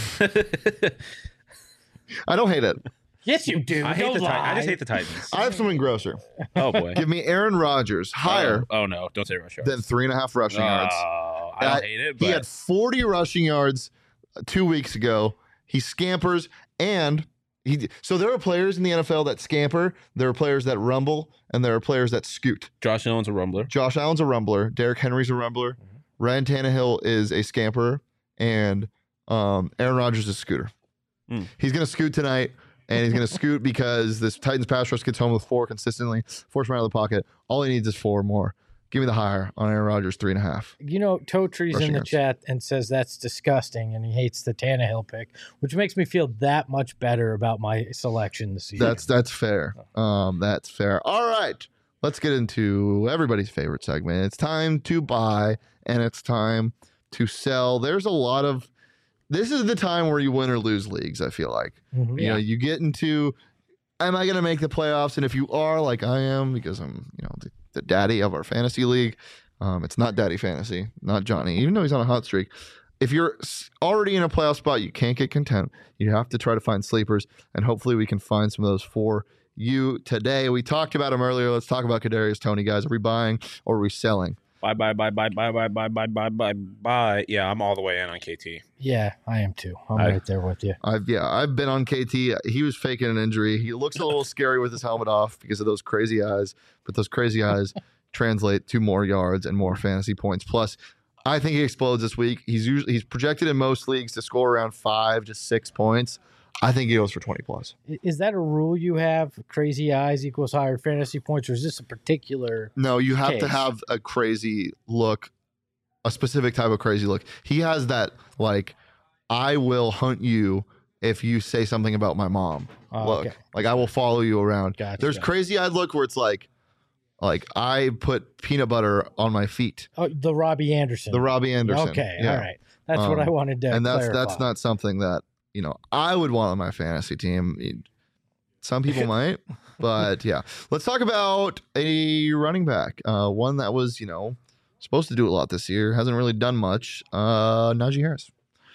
I don't hate it. Yes, you do. I hate Don't the Ti- I lie. just hate the Titans. I have something grosser. Oh, boy. Give me Aaron Rodgers higher Oh, oh, no. Don't say rush yards. than three and a half rushing yards. Oh, I don't Uh, hate it, but He had forty rushing yards two weeks ago. He scampers, and he. So there are players in the N F L that scamper. There are players that rumble, and there are players that scoot. Josh Allen's a rumbler. Josh Allen's a rumbler. Derrick Henry's a rumbler. Ryan Tannehill is a scamper, and um, Aaron Rodgers is a scooter. Mm. He's going to scoot tonight. And he's going to scoot because this Titans pass rush gets home with four consistently. Force him out of the pocket. All he needs is four more. Give me the higher on Aaron Rodgers, three and a half. You know, Totri's Rushing in the yards. chat and says that's disgusting, and he hates the Tannehill pick, which makes me feel that much better about my selection this season. That's that's fair. Um, that's fair. All right, let's get into everybody's favorite segment. It's time to buy and it's time to sell. There's a lot of. This is the time where you win or lose leagues. I feel like Mhm. you know you get into. Am I going to make the playoffs? And if you are, like I am, because I'm you know the, the daddy of our fantasy league. Um, it's not Daddy Fantasy, not Johnny, even though he's on a hot streak. If you're s- already in a playoff spot, you can't get content. You have to try to find sleepers, and hopefully we can find some of those for you today. We talked about him earlier. Let's talk about Kadarius Toney, guys. Are we buying or are we selling? Bye, bye, bye, bye, bye, bye, bye, bye, bye, bye, bye. Yeah, I'm all the way in on K T. Yeah, I am too. I'm I- right there with you. I've yeah, I've been on K T. He was faking an injury. He looks a little scary with his helmet off because of those crazy eyes, but those crazy eyes translate to more yards and more fantasy points. Plus, I think he explodes this week. He's usually he's projected in most leagues to score around five to six points. I think he goes for twenty plus. I- Is that a rule you have? Crazy eyes equals higher fantasy points, or is this a particular? No, you have to Case. have a crazy look, a specific type of crazy look. He has that like, I will hunt you if you say something about my mom. Oh, look, okay. like I will follow you around. Gotcha, There's gotcha. crazy eyed look where it's like, like I put peanut butter on my feet. Oh, the Robbie Anderson. The Robbie Anderson. Okay, Yeah. all right. That's what I Um, wanted to And that's clarify. that's not something that you know I would want on my fantasy team. Some people might, but yeah. Let's talk about a running back. Uh, one that was you know supposed to do a lot this year, hasn't really done much. Uh, Najee Harris.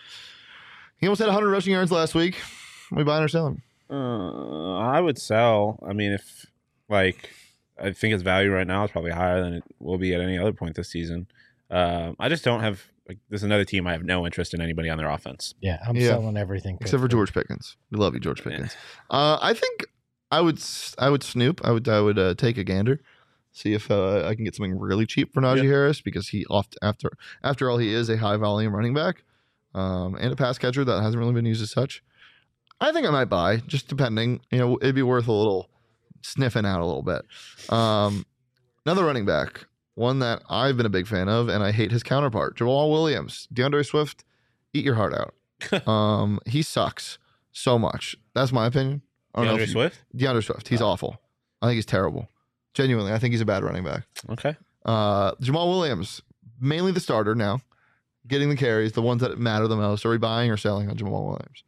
He almost had one hundred rushing yards last week. We buying or selling? Uh, I would sell. I mean, if like I think its value right now is probably higher than it will be at any other point this season. Um, I just don't have. Like, this is another team I have no interest in anybody on their offense. Yeah, I'm Yeah. selling everything. Except for George Pickens. We love you, George Pickens. Uh, I think I would s- I would snoop. I would I would uh, take a gander, see if uh, I can get something really cheap for Najee Yeah. Harris because he oft after after all he is a high volume running back. um, and a pass catcher that hasn't really been used as such. I think I might buy, just depending. You know, it'd be worth a little sniffing out a little bit. Um, another running back, one that I've been a big fan of, and I hate his counterpart, Jamal Williams. DeAndre Swift, eat your heart out. um, he sucks so much. That's my opinion. I don't know DeAndre if you- Swift? DeAndre Swift. He's Oh. awful. I think he's terrible. Genuinely, I think he's a bad running back. Okay. Uh, Jamal Williams, mainly the starter now, getting the carries, the ones that matter the most. Are we buying or selling on Jamal Williams?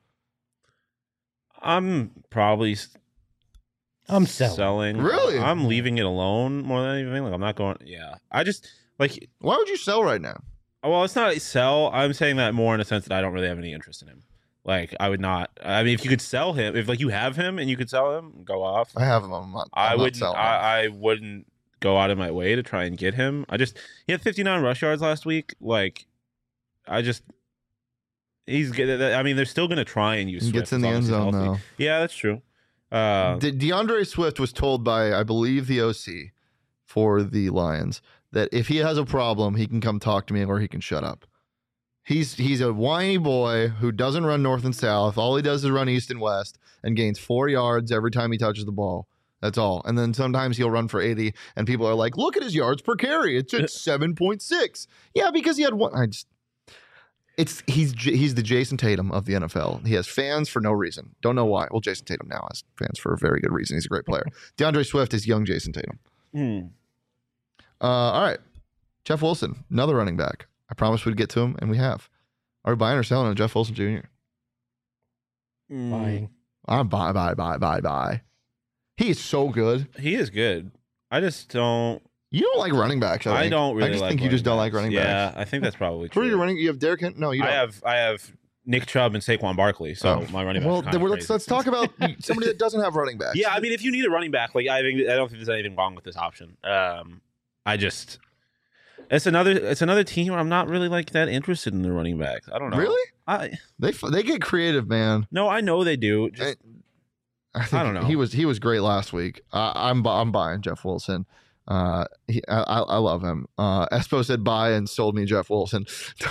I'm probably s- I'm selling. Really? I'm leaving it alone more than anything. Like I'm not going. Yeah. I just like. Why would you sell right now? Well, it's not a sell. I'm saying that more in a sense that I don't really have any interest in him. Like I would not. I mean, if you could sell him, if like you have him and you could sell him, go off. I have him. I'm not, I I'm not wouldn't. selling him. I, I wouldn't go out of my way to try and get him. I just he had fifty-nine rush yards last week. Like I just he's. good. I mean, they're still going to try and use. He Swift gets in as the long end as he's zone healthy. though. Yeah, that's true. Uh, De- DeAndre Swift was told by, I believe, the O C for the Lions that if he has a problem, he can come talk to me or he can shut up. He's he's a whiny boy who doesn't run north and south. All he does is run east and west and gains four yards every time he touches the ball. That's all. And then sometimes he'll run for eighty, and people are like, "Look at his yards per carry. It's at seven point six." Yeah, because he had one. I just. It's he's J- he's the Jason Tatum of the N F L. He has fans for no reason. Don't know why. Well, Jason Tatum now has fans for a very good reason. He's a great player. DeAndre Swift is young Jason Tatum. hmm. Uh, all right, Jeff Wilson, another running back. I promised we'd get to him, and we have. Are we buying or selling on Jeff Wilson Junior? Mm, Buying. I'm buy, buy, buy, buy, buy. He is so good. He is good. I just don't. You don't like running backs. I, I, think. don't really. I just like think you just don't like backs. running yeah, backs. I think that's probably Who true. are you running? You have Derrick Henry? No, you don't. I have I have Nick Chubb and Saquon Barkley. So Oh. my running back. Well, then we're- let's let's talk about somebody that doesn't have running backs. Yeah, I mean, if you need a running back, like I think I don't think there's anything wrong with this option. Um, I just it's another it's another team where I'm not really like that interested in the running backs. I don't know. Really? I They f- they get creative, man. no, I know they do. Just, I, think I don't know. He was he was great last week. Uh, I'm bu- I'm buying Jeff Wilson. Uh, he, I, I I love him. Uh, Espo said buy and sold me Jeff Wilson.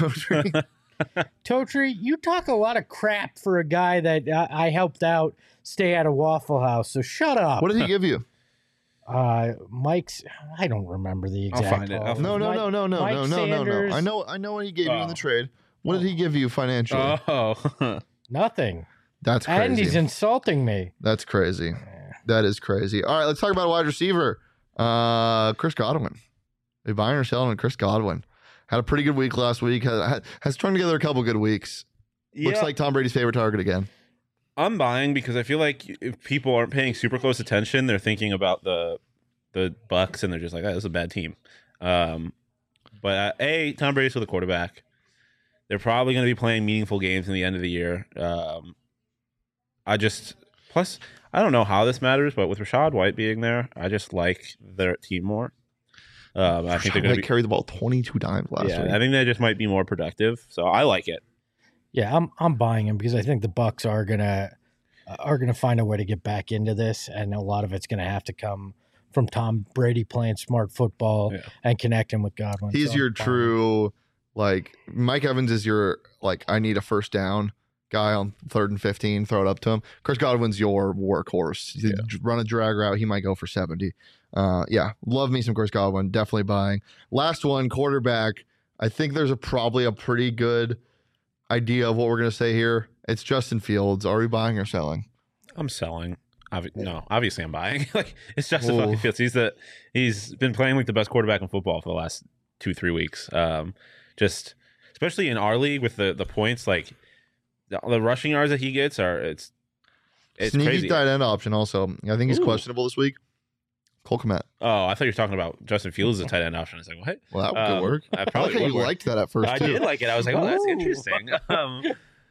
Totri, you talk a lot of crap for a guy that uh, I helped out stay at a Waffle House. So shut up. What did he give you? Uh, Mike's. I don't remember the I'll exact. find it. I'll offer. find No, no, Mike- no, no, no, Mike no, no, no, no. Sanders. I know, I know what he gave you in Oh. the trade. What did he give you financially? oh, Nothing. That's And he's crazy. insulting me. That's crazy. That is crazy. All right, let's talk about a wide receiver. Uh, Chris Godwin. Are you buying or selling on Chris Godwin? Had a pretty good week last week. Has, has strung together a couple good weeks. Looks yeah. like Tom Brady's favorite target again. I'm buying because I feel like if people aren't paying super close attention, they're thinking about the the Bucks and they're just like, oh, this is a bad team. Um, but uh, a Tom Brady's with the quarterback. They're probably going to be playing meaningful games in the end of the year. Um, I just plus I don't know how this matters, but with Rashad White being there, I just like their team more. Um, I think they're going to be. carry the ball twenty-two times last Yeah, week. I think they just might be more productive. So I like it. Yeah, I'm I'm buying him because I think the Bucks are gonna uh, are gonna find a way to get back into this, and a lot of it's gonna have to come from Tom Brady playing smart football Yeah. and connecting with Godwin. He's So I'm your buying him. true, like, Mike Evans is your, like, I need a first down guy on third and fifteen, throw it up to him. Chris Godwin's your workhorse. You run a drag route, he might go for seventy. Uh, yeah, love me some Chris Godwin. Definitely buying. Last one, quarterback. I think there's a probably a pretty good idea of what we're going to say here. It's Justin Fields. Are we buying or selling? I'm selling. Obvi- no, obviously I'm buying. Like it's Justin Ooh. fucking Fields. He's the he's been playing like the best quarterback in football for the last two three weeks. Um, just especially in our league with the the points, like the, the rushing yards that he gets are it's it's Sneaky crazy. tight end option also. I think he's Ooh. questionable this week. Cole Kmet. Oh, I thought you were talking about Justin Fields as a tight end option. I was like, what? Well, that Um, could work. I I probably like how would you work. liked that at first, I too. did like it. I was like, oh, that's Ooh. interesting. Um,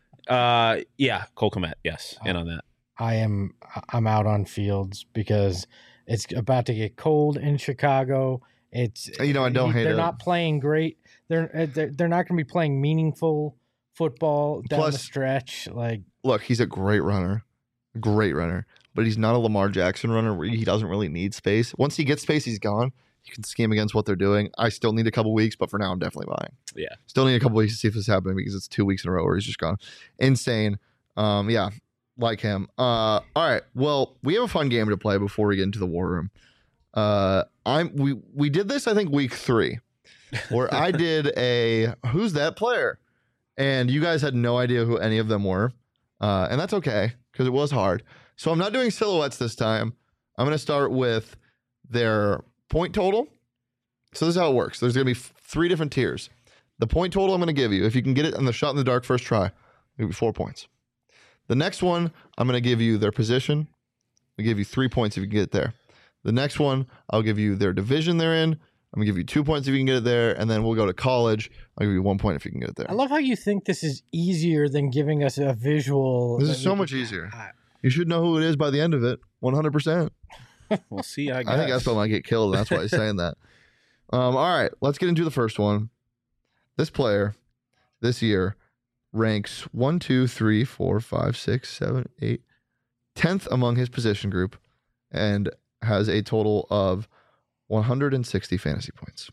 uh, yeah, Cole Kmet. Yes, in on that. I am I'm out on Fields because it's about to get cold in Chicago. It's You know, I don't hate they're it. not playing great. They're uh, they're, they're not going to be playing meaningful football down Plus- the stretch. Like Look, he's a great runner. Great runner. But he's not a Lamar Jackson runner where he doesn't really need space. Once he gets space, he's gone. You can scheme against what they're doing. I still need a couple weeks, but for now, I'm definitely buying. Yeah. Still need a couple weeks to see if this is happening because it's two weeks in a row where he's just gone. Insane. Um, yeah, like him. Uh, all right. Well, we have a fun game to play before we get into the war room. Uh, I'm we we did this, I think, week three, where I did a who's that player? And you guys had no idea who any of them were. Uh, and that's okay, because it was hard. So I'm not doing silhouettes this time. I'm going to start with their point total. So this is how it works. There's going to be f- three different tiers. The point total I'm going to give you, if you can get it on the shot in the dark first try, it'll be four points. The next one, I'm going to give you their position. I'll give you three points if you can get it there. The next one, I'll give you their division they're in. I'm going to give you two points if you can get it there. And then we'll go to college. I'll give you one point if you can get it there. I love how you think this is easier than giving us a visual. This is so much easier. You should know who it is by the end of it, one hundred percent. We'll see. I guess. I think Espo might get killed, and that's why he's saying that. Um, all right, let's get into the first one. This player this year ranks one, two, three, four, five, six, seven, eight, tenth among his position group, and has a total of one hundred sixty fantasy points.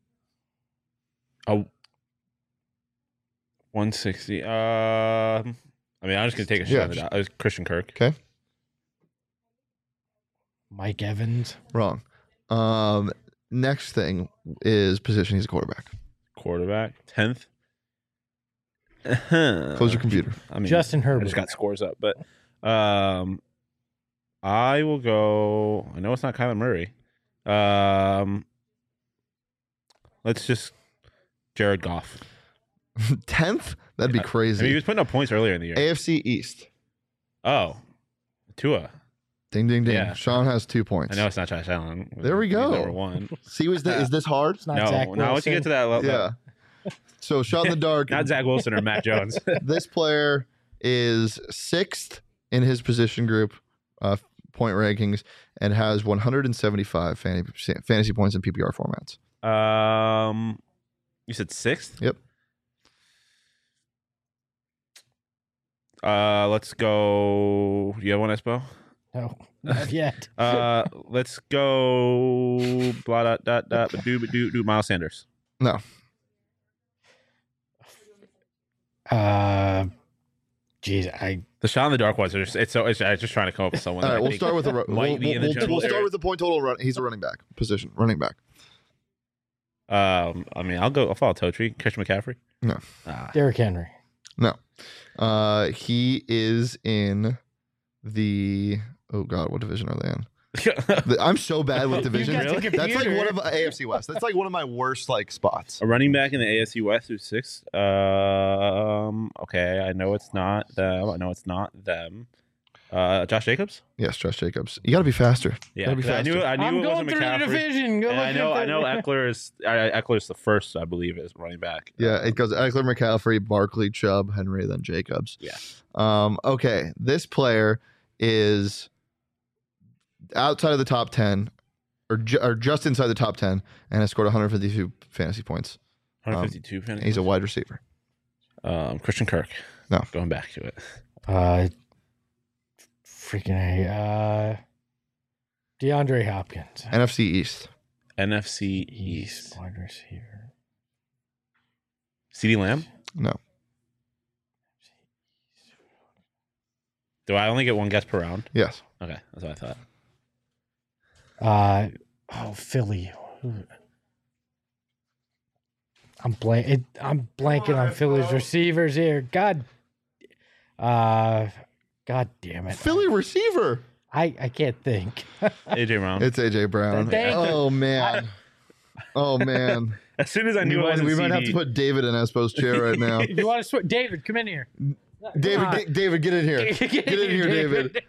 Oh, one sixty. Um, I mean, I'm just gonna take a shot Yeah, at that. It was Christian Kirk. Okay, Mike Evans. wrong. Um, next thing is position. He's a quarterback. Quarterback, tenth. Close your computer. I mean, Justin I Herbert. just got scores up, but um, I will go. I know it's not Kyler Murray. Um, let's just Jared Goff. tenth? That'd be I crazy. mean, he was putting up points earlier in the year. A F C East. Oh, Tua. Ding, ding, ding. Yeah. Sean has two points. I know it's not Josh Allen. There we He's go. Number one. See, was the, is this hard? It's not No, Zach now once you get to that level, Yeah. So shot in the dark. not Zach Wilson or Matt Jones. This player is sixth in his position group uh, point rankings and has one hundred seventy-five fantasy, fantasy points in P P R formats. um, you said sixth. Yep. Uh, let's go. You have one, Espo? No, not yet. Uh, let's go. Blah dot dot dot. Do do do. Miles Sanders. No. Uh, geez, I The shot in the dark ones are just. It's so. It's, I'm just trying to come up with someone. All that right, I we'll think start with the. might We'll, be in the we'll, general we'll start area. with the point total. Run, he's a running back position. Running back. Um, I mean, I'll go. I'll follow Totri. Christian McCaffrey. No. Ah. Derrick Henry. No. Uh, he is in the. Oh God, what division are they in? The- I'm so bad with divisions. got the That's like computer. one of A F C West. That's like one of my worst like spots. A running back in the A F C West who's six. Um. Okay, I know it's not them. I know it's not them. Uh, Josh Jacobs. Yes, Josh Jacobs. You got to be faster. Yeah, Gotta be 'cause I knew. faster. I knew I'm it going wasn't through the McCaffrey. division. Go And I look know. at I know. the- Eckler is. I, Eckler's the first, I believe, is running back. Yeah, it goes Eckler, McCaffrey, Barkley, Chubb, Henry, then Jacobs. Yeah. Um, okay, this player is outside of the top ten, or, ju- or just inside the top ten, and has scored one hundred fifty-two fantasy points. one fifty-two. Um, He's a wide receiver. Um, Christian Kirk. No. Going back to it. Uh, freaking A. Uh, DeAndre Hopkins. N F C East. N F C East. Wide receiver. CeeDee Lamb. No. Do I only get one guess per round? Yes. Okay, that's what I thought. Uh, oh, Philly. I'm blank. It, I'm blanking on Philly's receivers here. God. Uh, God damn it. Philly receiver. I, I can't think. A J Brown. It's A J Brown. Thank you. Oh man. Oh man. As soon as I We, knew it might, wasn't we might have C D. to put David in Espo's chair right now. You want to switch? David, come in here. David, Come on. get, David, get in here. Get, Get in here, David.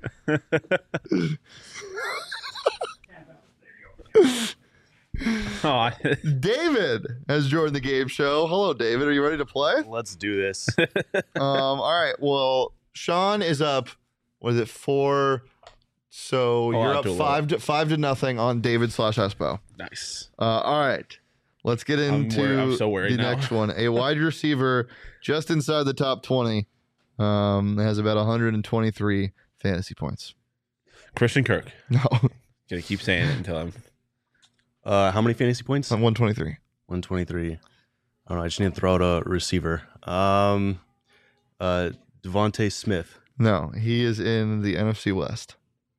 Oh, I, David has joined the game show. Hello, David. Are you ready to play? Let's do this. Um, all right. Well, Sean is up. What is it? Four. So Oh, you're I'll up do a five to five to nothing on David slash Espo. nice. Uh, all right. Let's get I'm into wor- I'm so worried the now. next one. A wide receiver just inside the top twenty. Um, has about one hundred twenty-three fantasy points. Christian Kirk. No. Gonna keep saying it until I'm. Uh, how many fantasy points? one twenty-three. one twenty-three. I don't know. I just need to throw out a receiver. Um, uh, Devontae Smith. No, he is in the N F C West.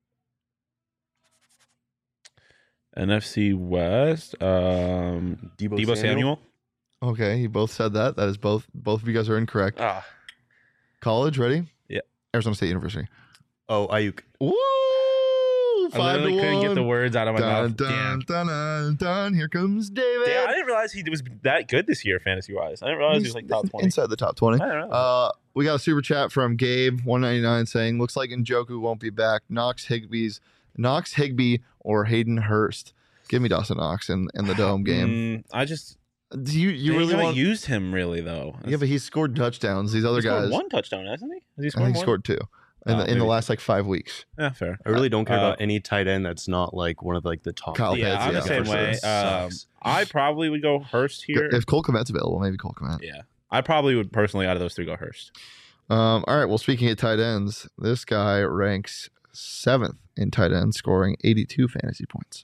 N F C West. Um, Debo, Debo Samuel. Okay, you both said that. That is both. Both of you guys are incorrect. Ah, College, ready? Yeah. Arizona State University. Oh, Ayuk. Woo! I Five to literally couldn't one. get the words out of my Dun, mouth. dun, Damn. dun, dun, dun. Here comes David. Damn, I didn't realize he was that good this year, fantasy wise. I didn't realize he was like top twenty. Inside the top twenty. I don't know. Uh, we got a super chat from Gabe one ninety-nine saying, "Looks like Njoku won't be back. Knox Higbee's Knox Higbee or Hayden Hurst. Give me Dawson Knox in, in the dome game. Mm, I just Do you you they really haven't want? used him really though. Yeah, but he's scored touchdowns. These other He scored guys, one touchdown, hasn't he? Has he I scored think he more? scored two in, Oh, the, in the maybe. last like five weeks. Yeah, fair. I really don't care Uh, about any tight end that's not like one of like the top. Kyle Yeah, Pitts, I'm the yeah, same for way. sure. Um, Sucks. I probably would go Hurst here. If Cole Kmet's available, maybe Cole Kmet. Yeah, I probably would personally out of those three go Hurst. Um, all right. Well, speaking of tight ends, this guy ranks seventh in tight end, scoring eighty-two fantasy points.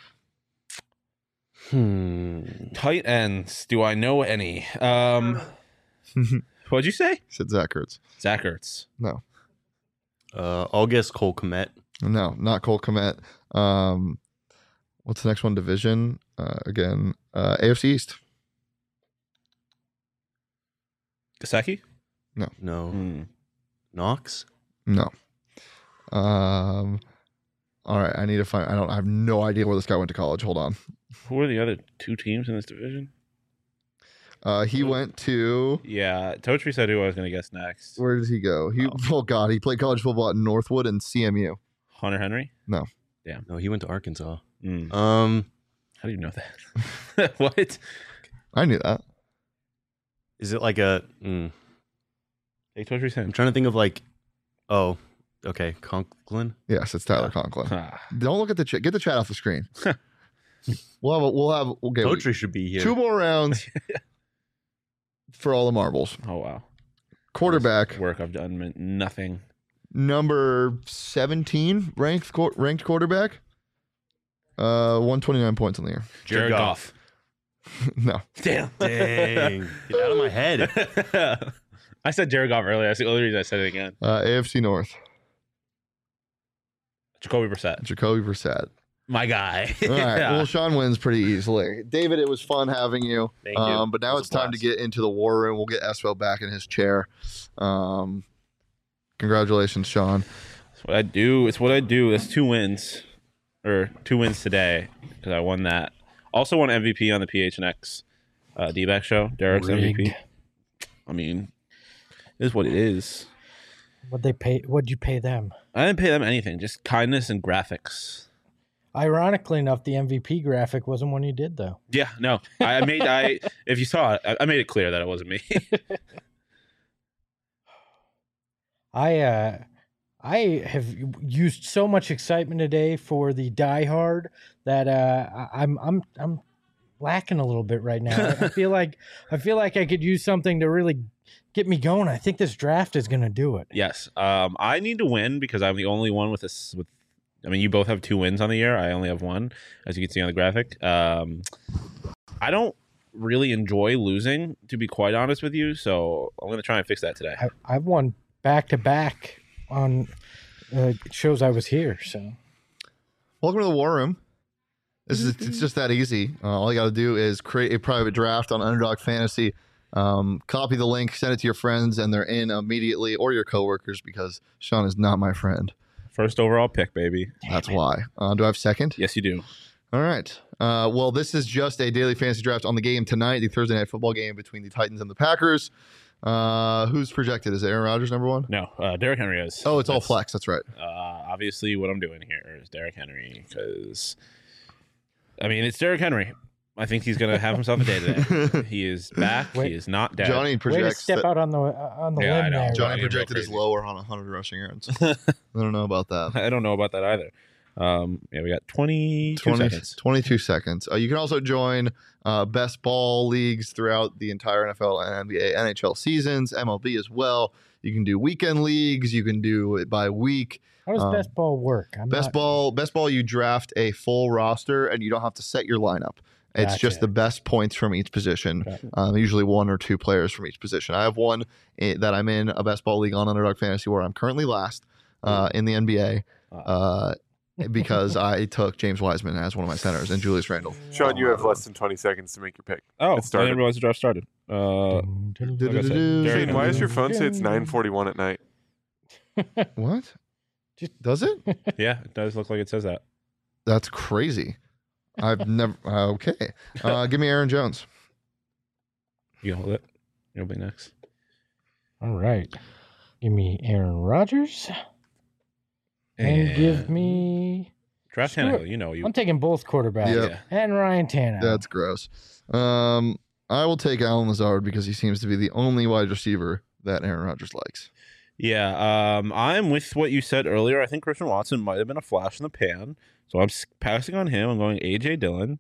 Hmm. Tight ends. Do I know any? Um, what'd you say? Said Zach Ertz. Zach Ertz. No, Uh, I'll guess Cole Kmet. no, not Cole Kmet. Um, what's the next one? Division uh, again. Uh, A F C East. Gasecki? No. Hmm. Knox. No. Um. All right. I need to find. I don't. I have no idea where this guy went to college. Hold on. Who are the other two teams in this division? Uh, he went to. Yeah, Totri said who I was going to guess next. Where did he go? He. Oh. Oh God. He played college football at Northwood and C M U. Hunter Henry? No, he went to Arkansas. Hmm. Um, How do you know that? What? I knew that. is it like a? Mm, Take Totri's I'm hint. trying to think of like. Oh, okay, Conklin. Yes, it's Tyler Yeah. Conklin. Ah. Don't look at the chat. Get the chat off the screen. we'll have. A, we'll have. Okay, we- Totri should be here. two more rounds for all the marbles. Oh, wow. Quarterback Work I've done meant nothing. number seventeen ranked qu- ranked quarterback. Uh, one twenty nine points on the year. Jared Goff. No, Damn. Dang, get out of my head. I said Jared Goff earlier. That's the only reason I said it again. uh, A F C North. Jacoby Brissett. Jacoby Brissett. My guy. All right. Yeah. Well, Sean wins pretty easily. David, it was fun having you. Thank you. Um, but now It was it's a time to blast. get into the war room. We'll get Espo back in his chair. Um, congratulations, Sean. It's what I do. It's what I do. That's two wins, or two wins today because I won that. Also won M V P on the P H N X uh, D-back show. Derek's M V P. Rigged. I mean, it is what it is. What'd they pay? What'd you pay them? I didn't pay them anything, just kindness and graphics. Ironically enough, the M V P graphic wasn't one you did though. Yeah, no, I I made. I if you saw it, I, I made it clear that it wasn't me. I uh I have used so much excitement today for the Die Hard that uh I- I'm I'm I'm lacking a little bit right now. I I feel like I feel like I could use something to really get me going. I think this draft is going to do it. Yes, um, I need to win because I'm the only one with this. With, I mean, you both have two wins on the year. I only have one, as you can see on the graphic. Um, I don't really enjoy losing, to be quite honest with you. So I'm going to try and fix that today. I, I've won back to back on uh, shows I was here. So Welcome to the war room. This is it's just that easy. Uh, all you got to do is create a private draft on Underdog Fantasy. Um, copy the link, send it to your friends, and they're in immediately, or your coworkers, because Sean is not my friend. First overall pick, baby. That's why. Uh, do I have second? Yes, you do. All right. Uh, well, this is just a daily fantasy draft on the game tonight, the Thursday night football game between the Titans and the Packers. Uh, who's projected? Is it Aaron Rodgers number one? No, uh, Derrick Henry is. Oh, it's all That's, flex. That's right. Uh, obviously, what I'm doing here is Derrick Henry because, I mean, it's Derrick Henry. I think he's going to have himself a day today. He is back. Wait. He is not dead. Johnny way to projects. step that- out on the uh, on the Yeah, I limb know. there. Johnny Johnny, projected real is crazy. lower on one hundred rushing yards. I don't know about that. I don't know about that either. Um, yeah, we got twenty-two twenty, seconds. twenty-two seconds. Uh, you can also join uh, best ball leagues throughout the entire N F L and N B A, N H L seasons, M L B as well. You can do weekend leagues. You can do it by week. How does Um, best ball work? I'm Best not- ball, best ball. You draft a full roster, and you don't have to set your lineup. It's Gotcha. just the best points from each position. Gotcha. Um, usually one or two players from each position. I have one i- that I'm in a best ball league on Underdog Fantasy where I'm currently last uh, in the N B A uh, because I took James Wiseman as one of my centers and Julius Randle. Sean, you have less than twenty seconds to make your pick. Oh, It I started. didn't realize the draft started. Uh, Dun, dun, Dun, like I said, dun, dun, Derek- Shane, why does your phone say it's nine forty-one at night? What? Just- Does it? yeah, it does look like it says that. That's crazy. I've never. Uh, okay. Uh, give me Aaron Jones. You hold it. You'll be next. All right. Give me Aaron Rodgers and, give me. draft Screw Tannehill. it. You know you. I'm taking both quarterbacks Yep. Yeah. and Ryan Tannehill. That's gross. Um, I will take Alan Lazard because he seems to be the only wide receiver that Aaron Rodgers likes. Yeah, um, I'm with what you said earlier. I think Christian Watson might have been a flash in the pan, so I'm s- passing on him. I'm going A J Dillon,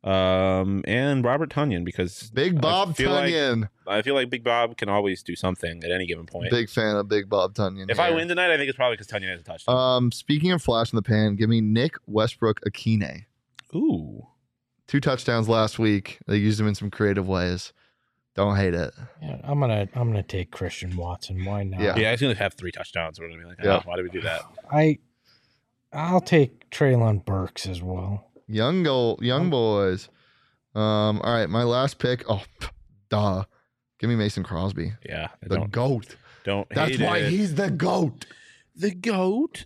um, and Robert Tunyon because Big I Bob feel like- Tunyon. I feel like Big Bob can always do something at any given point. Big fan of Big Bob Tunyon. if I here. win tonight, I think it's probably because Tunyon has a touchdown. Um, speaking of flash in the pan, give me Nick Westbrook Akine. Ooh, Two touchdowns last week. They used him in some creative ways. Don't hate it. Yeah, I'm gonna I'm gonna take Christian Watson. Why not? Yeah. yeah, he's gonna have three touchdowns. We're gonna be like, oh, Yeah. why did we do that? I I'll take Traylon Burks as well. Young goal, young boys. Um, all right, my last pick. Oh, duh. Give me Mason Crosby, Yeah, I the don't goat. don't. That's hate why it. he's the goat. the goat.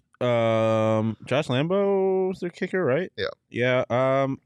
Um, Josh Lambo's the kicker, right? Yeah. Yeah. Um.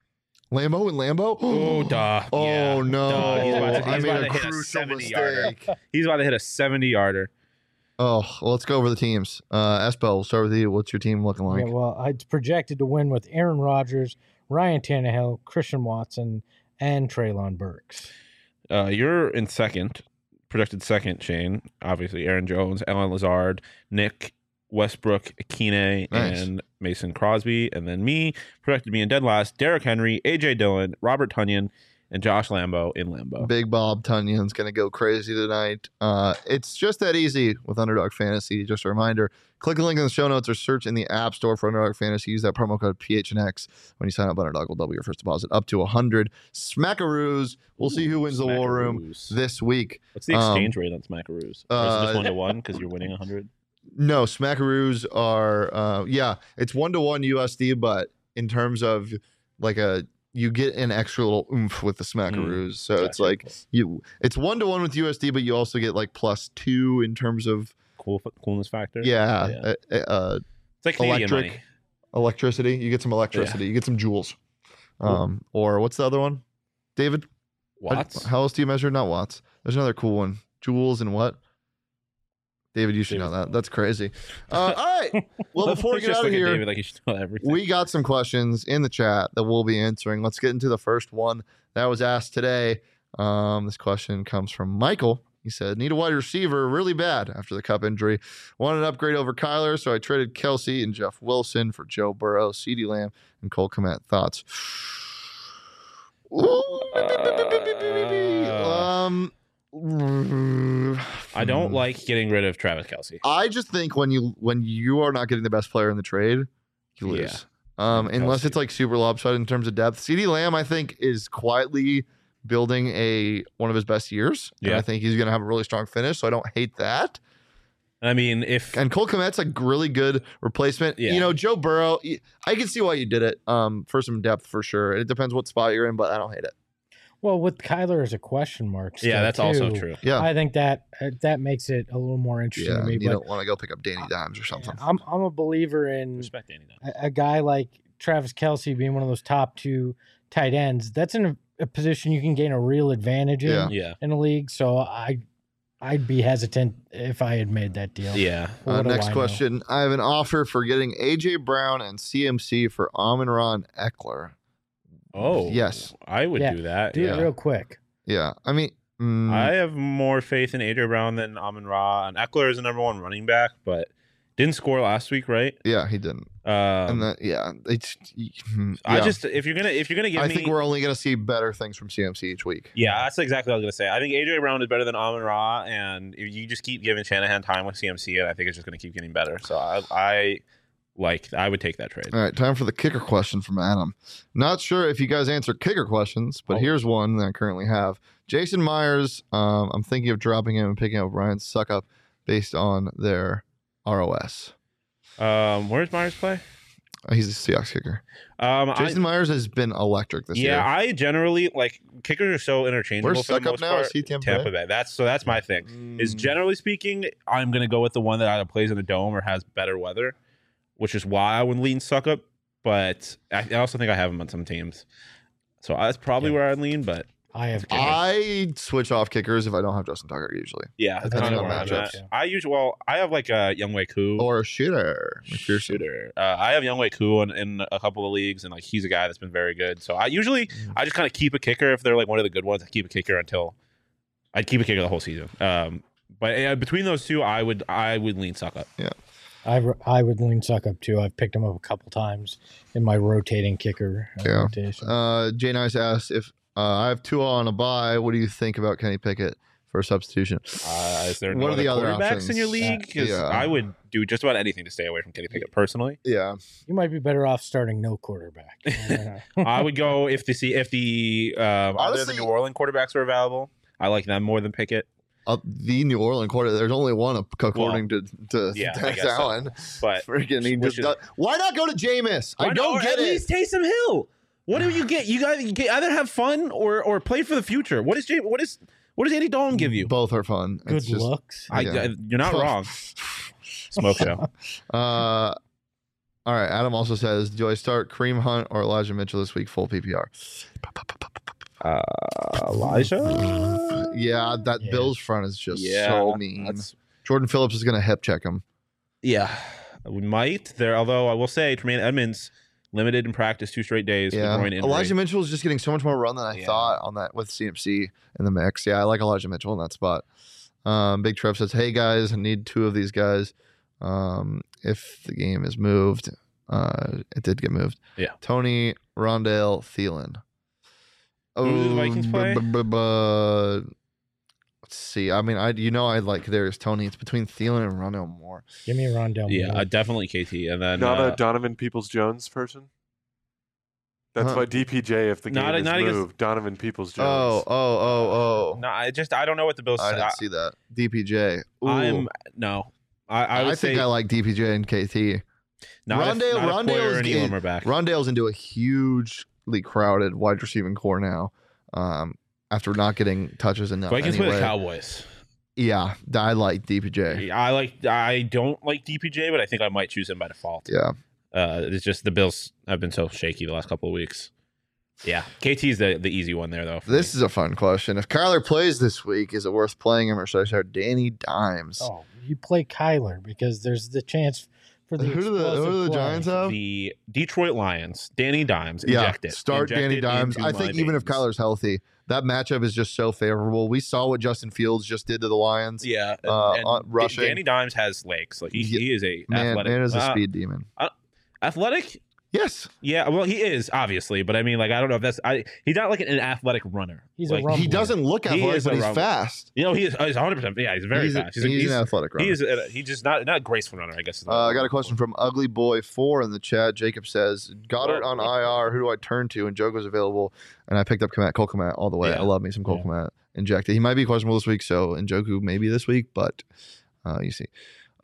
Lambo and Lambo. Oh, duh. Oh Yeah. no! Duh. He's about to, I he's made about a to hit a crucial seventy-yarder. mistake. He's about to hit a seventy-yarder. Oh, well, let's go over the teams. Uh, Espo, we'll start with you. What's your team looking like? Yeah, well, it's projected to win with Aaron Rodgers, Ryan Tannehill, Christian Watson, and Traylon Burks. Uh, you're in second, projected second, Shane. Obviously, Aaron Jones, Alan Lazard, Nick Westbrook, Akine, Nice. and Mason Crosby. And then me, projected me in dead last, Derrick Henry, A J Dillon, Robert Tunyon, and Josh Lambo in Lambo. Big Bob Tunyon's going to go crazy tonight. Uh, it's just that easy with Underdog Fantasy. Just a reminder, click the link in the show notes or search in the App Store for Underdog Fantasy. Use that promo code P H N X when you sign up. Underdog will double your first deposit up to one hundred. Smackaroos. We'll see who wins the War Room Smackaroos. this week. What's the Um, exchange rate on Smackaroos? Or is it uh, just one to one because you're winning one hundred? No, Smackaroos are, uh, yeah, it's one to one U S D, but in terms of like a, you get an extra little oomph with the Smackaroos. so it's Gotcha. like you, it's one to one with U S D, but you also get like plus two in terms of, Cool coolness factor. yeah, Yeah. Uh, uh, It's like Canadian electric money. electricity. You get some electricity. You get some joules. Um, or what's the other one, David? How- Watts. How, else do you measure? Not watts. There's another cool one. Joules and what? David, you should know David. that. That's crazy. Uh, all right. Well, before we Just get out look of at here, David like you should know everything. we got some questions in the chat that we'll be answering. Let's get into the first one that was asked today. Um, this question comes from Michael. He said, need a wide receiver really bad after the Cup injury. Wanted an upgrade over Kyler, so I traded Kelsey and Jeff Wilson for Joe Burrow, CeeDee Lamb, and Cole Kmet. Thoughts? um, I don't hmm. like getting rid of Travis Kelsey. I just think when you when you are not getting the best player in the trade, you lose. Yeah. Um, And unless Kelsey. it's like super lopsided in terms of depth. CeeDee Lamb, I think, is quietly building a one of his best years. And Yeah. I think he's going to have a really strong finish, so I don't hate that. I mean, if And Cole Kmet's a really good replacement. Yeah. You know, Joe Burrow, y- I can see why you did it um, for some depth for sure. It depends what spot you're in, but I don't hate it. Well, with Kyler as a question mark, yeah, still, that's also too, true. Yeah. I think that uh, that makes it a little more interesting Yeah, to me. you But don't want to go pick up Danny Dimes or something. I'm I'm a believer in Respect Danny. Though. a, a guy like Travis Kelsey being one of those top two tight ends. That's in a, a position you can gain a real advantage in Yeah. Yeah, in the league. So I I'd be hesitant if I had made that deal. yeah. What Uh, do next I know? question. I have an offer for getting A J Brown and C M C for Amon-Ra Eckler. Oh, Yes. I would Yeah, do that. Do yeah. it real quick. Yeah. I mean, mm, I have more faith in A J Brown than Amon Ra, and Eckler is the number one running back. But Didn't score last week, right? Yeah, he didn't. Um, And that, yeah, it's. Yeah. I just if you're gonna if you're gonna give I me, think we're only gonna see better things from C M C each week. yeah, that's exactly what I was gonna say. I think A J Brown is better than Amon Ra, and if you just keep giving Shanahan time with C M C, and I think it's just gonna keep getting better. So I, I like I would take that trade. All right, time for the kicker question from Adam. Not sure if you guys answer kicker questions, but Oh. here's one that I currently have. Jason Myers, um, I'm thinking of dropping him and picking up Ryan Suckup based on their R O S. Um, where's Myers play? Uh, He's a Seahawks kicker. Um, Jason I, Myers has been electric this yeah, year. I generally like kickers are so interchangeable Where's for the Suckup most now? part. Is he Tampa Tampa Bay? Bay. That's so that's my thing. Is Mm. generally speaking, I'm gonna go with the one that either plays in a dome or has better weather, which is why I would lean Suckup. But I, I also think I have him on some teams, so that's probably Yeah. where I'd lean. But I have. I switch off kickers if I don't have Justin Tucker usually. yeah, that's Depending kind of on where I'm matchups. at. I usually well, I have like a Youngwei Koo. Or a shooter. McPherson. shooter. Uh, I have Youngwei Koo in, in a couple of leagues, and like he's a guy that's been very good. So I usually I just kind of keep a kicker if they're like one of the good ones. I keep a kicker until I'd keep a kicker the whole season. Um, but uh, between those two, I would I would lean Suck Up. I, I would lean Suck Up too. I've picked him up a couple times in my rotating kicker uh, Yeah. rotation. Uh, Jay Nice asked if uh, I have Tua on a bye. What do you think about Kenny Pickett for a substitution? Uh, is there What no are other the other quarterbacks in your options? league? Because Yeah. I would do just about anything to stay away from Kenny Pickett personally. Yeah. You might be better off starting no quarterback. I would go if the see if the um, either the Honestly- New Orleans quarterbacks are available. I like them more than Pickett. Uh, the New Orleans quarter. There's only one according to to Yeah, I Dennis guess so. Allen. But Freaking, he Which just is- does- why not go to Jameis? I Why don't not? get Or at it. least Taysom Hill. What do you get? You got you get, either have fun or or play for the future. What is Jay, what is what does Andy Dalton give you? Both are fun. Good It's just, looks. I, yeah. I- you're not wrong. Smoke show. Uh, all right. Adam also says, do I start Kareem Hunt or Elijah Mitchell this week? Full P P R. Uh, Elijah. Yeah, that Yeah. Bills front is just Yeah, so mean. that's- Jordan Phillips is going to hip check him. Yeah, we might there. Although I will say, Tremaine Edmonds limited in practice two straight days. with Yeah, groin injury. Elijah Mitchell is just getting so much more run than I Yeah. thought on that with C M C in the mix. Yeah, I like Elijah Mitchell in that spot. Um, Big Trev says, "Hey guys, I need two of these guys. Um, if the game is moved, uh, it did get moved. Yeah. Tony, Rondale, Thielen. Who do the Vikings play? bu- bu- bu- Let's see. I mean, I you know I like there's Tony. It's between Thielen and Rondale Moore. Give me Rondell. Yeah, Moore. uh, definitely K T, and then Not uh, a Donovan Peoples Jones person. That's Huh. why D P J, if the game Not a- is not against- moved, Donovan Peoples Oh, Jones. oh, oh, oh. no, I just I don't know what the Bills. I didn't I, see that. D P J. Ooh. I'm no. I, I I, would think say I like D P J and K T. not Rondale- if, not if Poyer Rondale's and in- Elam are back. Rondale's into a hugely crowded wide receiving core now. Um, after not getting touches enough. Vikings play anyway. the Cowboys. Yeah, I like D P J. I like. I don't like D P J, but I think I might choose him by default. Yeah. Uh, it's just the Bills have been so shaky the last couple of weeks. Yeah, K T's the the easy one there though. for This me. is a fun question. If Kyler plays this week, is it worth playing him or should I start Danny Dimes? Oh, you play Kyler because there's the chance for the. Who do the- who explosive do the play. Giants have? the Detroit Lions. Danny Dimes. Yeah, Inject it. start Inject Danny it Dimes. into I my think even if veins. Kyler's healthy, that matchup is just so favorable. We saw what Justin Fields just did to the Lions. Yeah, and, uh, and uh, rushing. Danny Dimes has legs. Like he, Yeah. he is a Man, athletic. man is a uh, speed demon. athletic. Yes. Yeah, well, he is obviously, but I mean, like, I don't know if that's. I he's not like an athletic runner. He's a like, rum- He Rumbler. doesn't look He athletic, is a but he's rumbler. fast. You know, he is. He's one hundred percent. Yeah, he's very he's fast. he's, a- an athletic runner. He is. A, he's just not not a graceful runner. I guess. is the Uh, I word. got a question from Ugly Boy Four in the chat. Jacob says, Goddard Whoa. on I R. Who do I turn to? And Jogo's available. And I picked up Komet, Cole Komet all the way. Yeah. I love me some Cole Yeah. Komet injected. He might be questionable this week, so Njoku maybe this week, but uh, you see.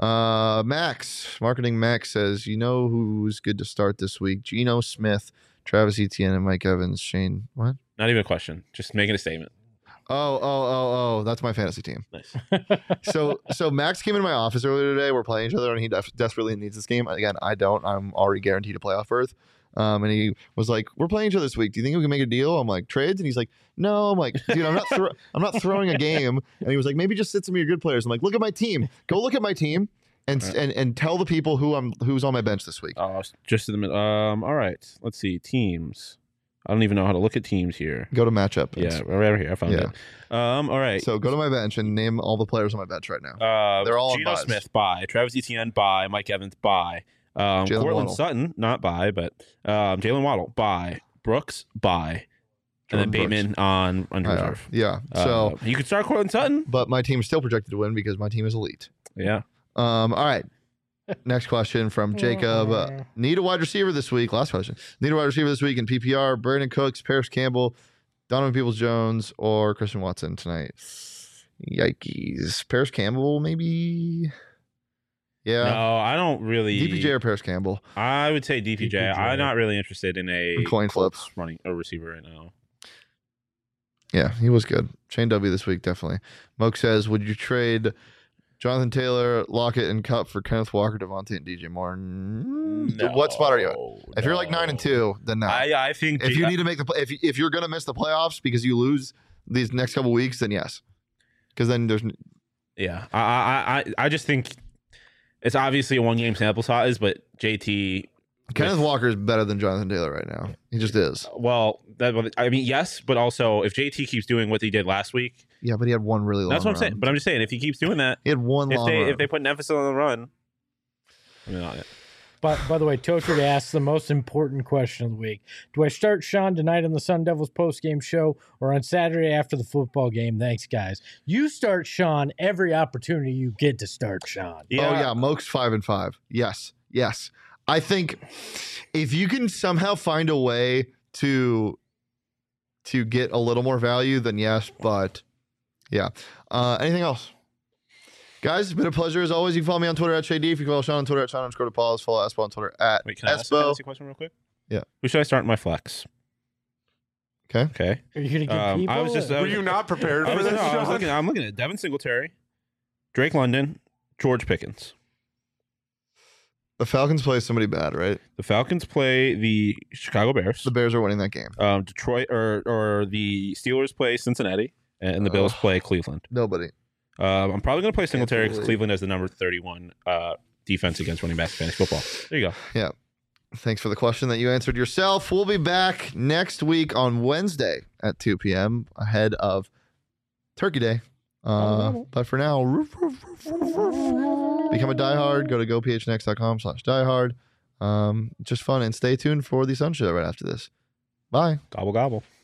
Uh, Max, Marketing Max says, you know who's good to start this week? Geno Smith, Travis Etienne, and Mike Evans. Shane, what? Not even a question. Just making a statement. Oh, oh, oh, oh, that's my fantasy team. Nice. so so Max came into my office earlier today. We're playing each other, and he def- desperately needs this game. Again, I don't. I'm already guaranteed a playoff berth. Um, and he was like, "We're playing each other this week. Do you think we can make a deal?" I'm like, "Trades?" And he's like, "No." I'm like, "Dude, I'm not. Thro- I'm not throwing a game." And he was like, "Maybe just sit some of your good players." I'm like, "Look at my team. Go look at my team, and Right. and and tell the people who I'm who's on my bench this week." Oh, just in the middle. Um. All right. Let's see. Teams. I don't even know how to look at teams here. Go to matchup. Yeah, right here. I found Yeah. it. Um, all right. So go to my bench and name all the players on my bench right now. Uh, They're all on Geno buys. Smith, bye. Travis Etienne, bye. Mike Evans, bye. Um, Jalen Cortland Waddle. Sutton, not bye, but um, Jalen Waddle, bye. Brooks, bye. And then Jordan Bateman on under I know. reserve. Yeah. So, Uh, you could start Cortland Sutton. but my team is still projected to win because my team is elite. Yeah. Um. All right. Next question from Jacob. Uh, need a wide receiver this week. Last question. Need a wide receiver this week in P P R. Brandon Cooks, Paris Campbell, Donovan Peoples-Jones, or Christian Watson tonight. Yikes. Paris Campbell, maybe. Yeah. No, I don't really. D P J or Paris Campbell. I would say D P J. D P J. I'm not really interested in a And coin Colts flips. running a receiver right now. Yeah, he was good. Shane W this week, definitely. Moke says, would you trade Jonathan Taylor, Lockett, and Cup for Kenneth Walker, Devontae, and D J Moore? Mm, What spot are you at? If you're like nine and two, then no. I, I think if G- you need to make the play, if you, if you're gonna miss the playoffs because you lose these next couple weeks, then yes, because then there's n- yeah, I, I I I just think it's obviously a one game sample size, but J T. Kenneth with- Walker is better than Jonathan Taylor right now. He just is. Well, that I mean, yes, but also if J T keeps doing what he did last week, Yeah, but he had one really long. that's what I'm saying. run. But I'm just saying if he keeps doing that, he had one if long. they run. if they put an emphasis on the run, I mean, I- But by the way, Totri asked the most important question of the week. Do I start Sean tonight on the Sun Devils postgame show or on Saturday after the football game? Thanks, guys. You start Sean every opportunity you get to start Sean. yeah, Oh yeah, Moke's five and five. Yes, yes. I think if you can somehow find a way to to get a little more value, then yes. But yeah. Uh, anything else, guys? It's been a pleasure as always. You can follow me on Twitter at Shady. If you follow Sean on Twitter at Sean underscore DePaulis, follow Espo on Twitter at Wait, can I ask, a Espo. fantasy question real quick? Yeah. Who should I start in my flex? Okay. Okay. Are you going to give Um, people? I was just- a- I Were was- you not prepared I for was, this, no, I was Sean? looking. I'm looking at Devin Singletary, Drake London, George Pickens. The Falcons play somebody bad, right? The Falcons play the Chicago Bears. The Bears are winning that game. Um, Detroit or or the Steelers play Cincinnati, and the Bills Ugh. play Cleveland. Nobody. Um, I'm probably going to play Singletary because believe- Cleveland has the number thirty-one uh, defense against running backs in fantasy football. There you go. Thanks for the question that you answered yourself. We'll be back next week on Wednesday at two p.m. ahead of Turkey Day. Uh, but for now, roof, roof, roof, roof, roof. Become a diehard. Go to go p h n x dot com slash diehard. Um, just fun and stay tuned for the Sun Show right after this. Bye. Gobble gobble.